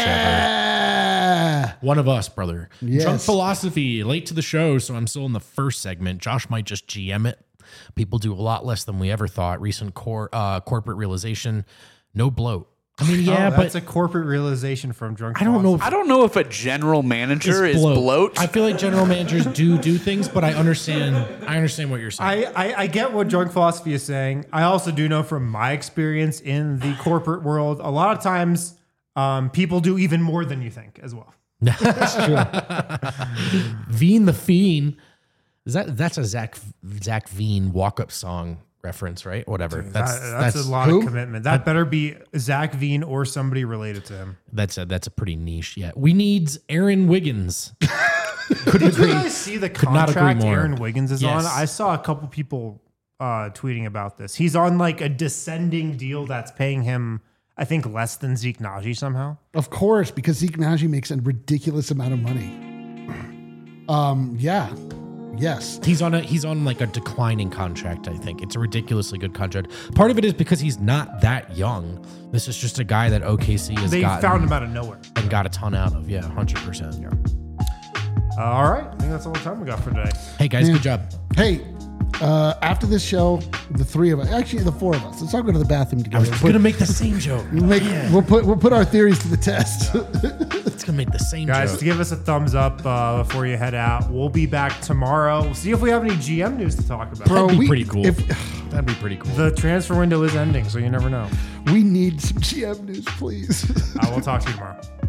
Yeah. One of us, brother. Yes. Drunk philosophy, late to the show, so I'm still in the first segment. Josh might just GM it. People do a lot less than we ever thought. Recent corporate realization, no bloat. I mean, yeah, Oh, but that's a corporate realization from Drunk. I don't know. Philosophy. I don't know if a general manager is bloat. I feel like general managers do things, but I understand what you're saying. I get what Drunk Philosophy is saying. I also do know from my experience in the corporate world, a lot of times people do even more than you think as well. That's true. Veen the Fiend. That's a Zach Veen walk-up song reference, right? Whatever. That's a lot of commitment. That better be Zach Veen or somebody related to him. That's a pretty niche. Yeah, we need Aaron Wiggins. Did you guys see the not agree contract more. Aaron Wiggins is Yes. on? I saw a couple people tweeting about this. He's on like a descending deal that's paying him, I think, less than Zeke Naji somehow. Of course, because Zeke Naji makes a ridiculous amount of money. Yeah. Yes. He's on like a declining contract, I think. It's a ridiculously good contract. Part of it is because he's not that young. This is just a guy that OKC has They gotten found him out of nowhere. and got a ton out of. Yeah, 100%. Yeah. All right. I think that's all the time we got for today. Hey guys, good job. Hey, after this show, the three of us, actually the four of us, let's all go to the bathroom I together. was gonna make the same joke. We'll put our theories to the test. It's gonna make the same Guys, joke. give us a thumbs up before you head out. We'll be back tomorrow. We'll see if we have any GM news to talk about. That'd be pretty cool. If, That'd be pretty cool. The transfer window is ending, so you never know. we need some GM news, please. We'll talk to you tomorrow.